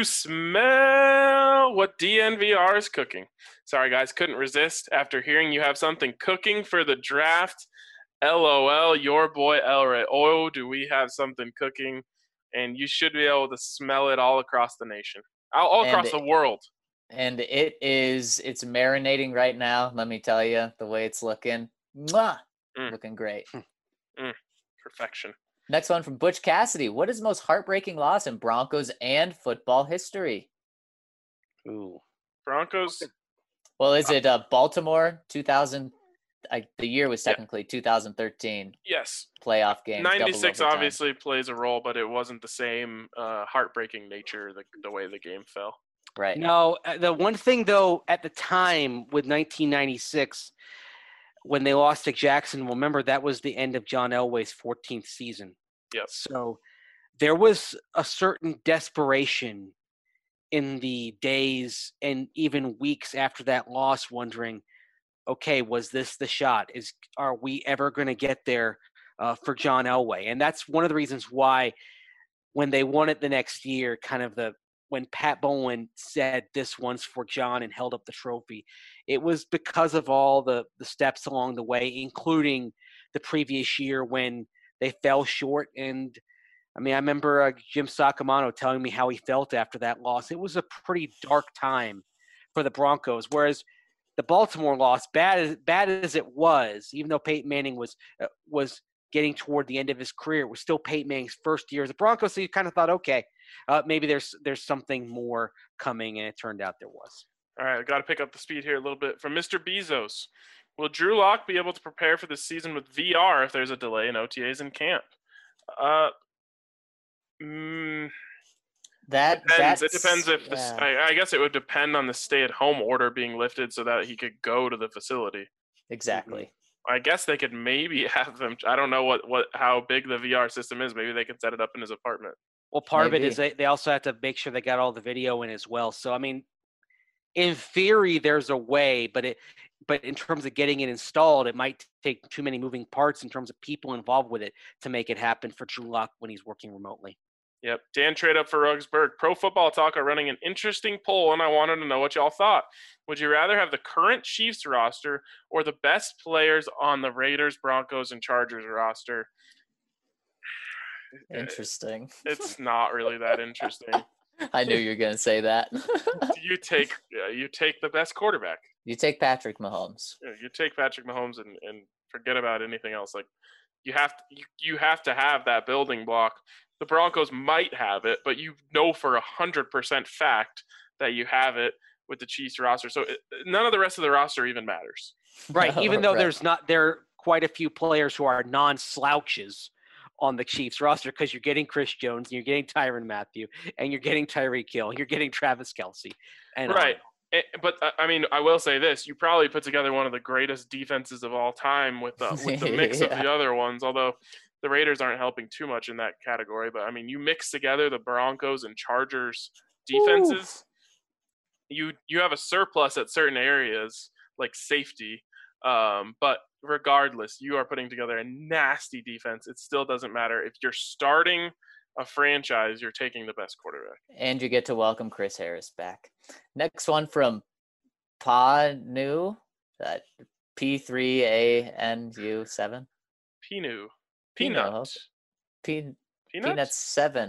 smell what D N V R is cooking? Sorry, guys, couldn't resist after hearing you have something cooking for the draft. LOL, your boy Elroy. Oh, do we have something cooking? And you should be able to smell it all across the nation, all, all across it, the world. And it is, it's marinating right now. Let me tell you, the way it's looking, mwah, Mm. looking great. Mm. Perfection. Next one from Butch Cassidy. What is the most heartbreaking loss in Broncos and football history? Ooh. Broncos. Well, is it uh, Baltimore two thousand? I, the year was technically yeah. two thousand thirteen. Yes. Playoff game. ninety-six obviously plays a role, but it wasn't the same uh, heartbreaking nature, the, the way the game fell. Right. No, the one thing, though, at the time with nineteen ninety-six, when they lost to Jacksonville, remember that was the end of John Elway's fourteenth season. Yep. So there was a certain desperation in the days and even weeks after that loss, wondering, okay, was this the shot? Is are we ever going to get there uh, for John Elway? And that's one of the reasons why when they won it the next year, kind of the when Pat Bowlen said this one's for John and held up the trophy, it was because of all the, the steps along the way, including the previous year when they fell short. And I mean, I remember uh, Jim Sacamano telling me how he felt after that loss. It was a pretty dark time for the Broncos, whereas the Baltimore loss, bad as bad as it was, even though Peyton Manning was uh, was getting toward the end of his career, it was still Peyton Manning's first year as a Broncos. So you kind of thought, okay, uh, maybe there's there's something more coming, and it turned out there was. All right, I got to pick up the speed here a little bit. From Mister Bezos, will Drew Lock be able to prepare for the season with V R if there's a delay in O T As in camp? Uh, mm, that depends. It depends if yeah. this. I, I guess it would depend on the stay-at-home order being lifted so that he could go to the facility. Exactly. I guess they could maybe have them. I don't know what, what how big the V R system is. Maybe they could set it up in his apartment. Well, part Maybe. of it is they, they also have to make sure they got all the video in as well. So, I mean, in theory, there's a way, but it, but in terms of getting it installed, it might take too many moving parts in terms of people involved with it to make it happen for Drew Lock when he's working remotely. Yep. Dan trade up for Rugsberg. Pro Football Talk are running an interesting poll, and I wanted to know what y'all thought. Would you rather have the current Chiefs roster or the best players on the Raiders, Broncos, and Chargers roster? Interesting. It's not really that interesting. I knew you were going to say that. you take uh, you take the best quarterback. You take Patrick Mahomes. You take Patrick Mahomes and, and forget about anything else. Like you have to, you, you have to have that building block. The Broncos might have it, but you know for a hundred percent fact that you have it with the Chiefs roster. So it, none of the rest of the roster even matters. Right. No, even though right. there's not there are quite a few players who are non-slouches on the Chiefs roster because you're getting Chris Jones, and you're getting Tyrann Mathieu, and you're getting Tyreek Hill, you're getting Travis Kelce. And right. It, but, uh, I mean, I will say this. You probably put together one of the greatest defenses of all time with, uh, with the mix yeah. of the other ones, although the Raiders aren't helping too much in that category. But, I mean, you mix together the Broncos and Chargers defenses, you you have a surplus at certain areas, like safety. Um, but regardless, you are putting together a nasty defense. It still doesn't matter. If you're starting a franchise, you're taking the best quarterback. And you get to welcome Chris Harris back. Next one from Panu, that P three A N U seven. Pinu. Pino. Peanut. Pe- Peanuts? Peanuts seven.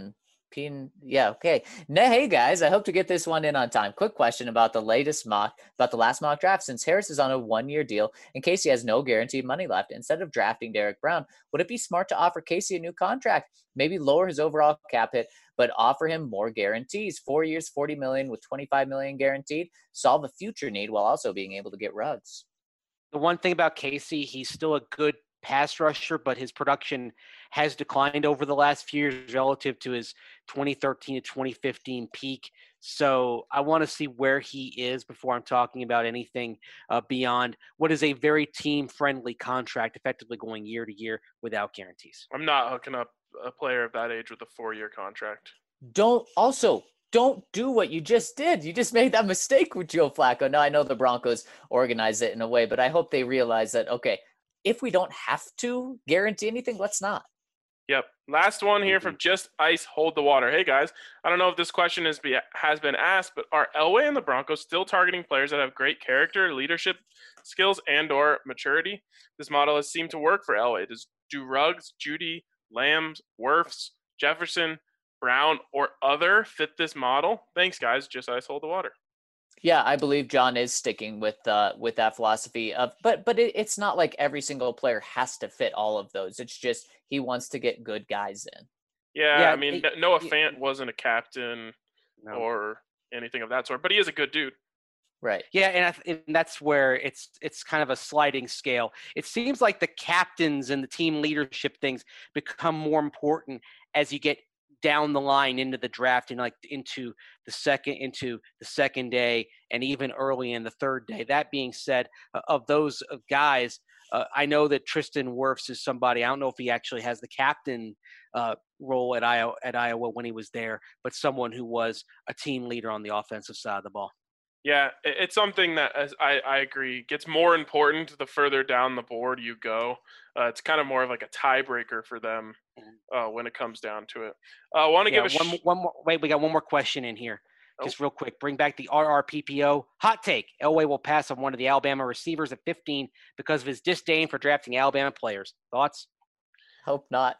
Peen, yeah, okay. Now, hey guys, I hope to get this one in on time. Quick question about the latest mock, about the last mock draft. Since Harris is on a one-year deal and Casey has no guaranteed money left, instead of drafting Derek Brown, would it be smart to offer Casey a new contract? Maybe lower his overall cap hit, but offer him more guarantees. Four years, forty million with twenty-five million guaranteed. Solve a future need while also being able to get Ruggs. The one thing about Casey, he's still a good pass rusher, but his production has declined over the last few years relative to his twenty thirteen to twenty fifteen peak. So I want to see where he is before I'm talking about anything uh, beyond what is a very team-friendly contract, effectively going year to year without guarantees. I'm not hooking up a player of that age with a four-year contract. Don't also don't do what you just did. You just made that mistake with Joe Flacco. Now I know the Broncos organize it in a way, but I hope they realize that, okay, if we don't have to guarantee anything, let's not. Yep. Last one here from Just Ice Hold the Water. Hey, guys. I don't know if this question is be, has been asked, but are Elway and the Broncos still targeting players that have great character, leadership skills, and or maturity? This model has seemed to work for Elway. Does do Ruggs, Judy, Lambs, Wirfs, Jefferson, Brown, or other fit this model? Thanks, guys. Just Ice Hold the Water. Yeah, I believe John is sticking with uh, with that philosophy of, but but it, it's not like every single player has to fit all of those. It's just he wants to get good guys in. Yeah, Yeah, I mean, it- Noah it- Fant wasn't a captain No. or anything of that sort, but he is a good dude. Right. Yeah, and, I th- and that's where it's it's kind of a sliding scale. It seems like the captains and the team leadership things become more important as you get down the line into the draft and like into the second into the second day and even early in the third day. That being said, uh, of those uh, guys, uh, I know that Tristan Wirfs is somebody. I don't know if he actually has the captain uh, role at Iowa at Iowa when he was there, but someone who was a team leader on the offensive side of the ball. Yeah, it- it's something that, as I, I agree, gets more important the further down the board you go. Uh, it's kind of more of like a tiebreaker for them uh, when it comes down to it. I uh, want to Yeah, give a one, sh- mo- one more. Wait, we got one more question in here. Just real quick, bring back the R R P P O. Hot take. Elway will pass on one of the Alabama receivers at fifteen because of his disdain for drafting Alabama players. Thoughts? Hope not.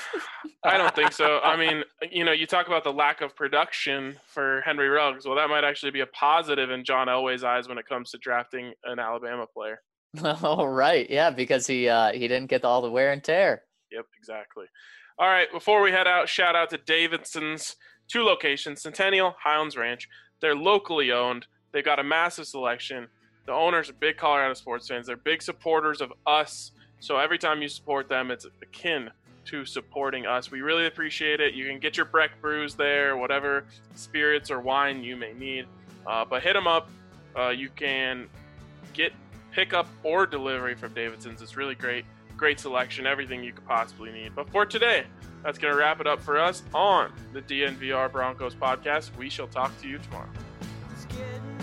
I don't think so. I mean, you know, you talk about the lack of production for Henry Ruggs. Well, that might actually be a positive in John Elway's eyes when it comes to drafting an Alabama player. All right. Yeah, because he uh, he didn't get all the wear and tear. Yep, exactly. All right, before we head out, shout out to Davidson's two locations, Centennial, Highlands Ranch. They're locally owned. They've got a massive selection. The owners are big Colorado sports fans. They're big supporters of us. So every time you support them, it's akin to supporting us. We really appreciate it. You can get your Breck brews there, whatever spirits or wine you may need. Uh, but hit them up. Uh, you can get pickup or delivery from Davidson's. It's really great. Great selection, everything you could possibly need. But for today, that's going to wrap it up for us on the D N V R Broncos podcast. We shall talk to you tomorrow. It's getting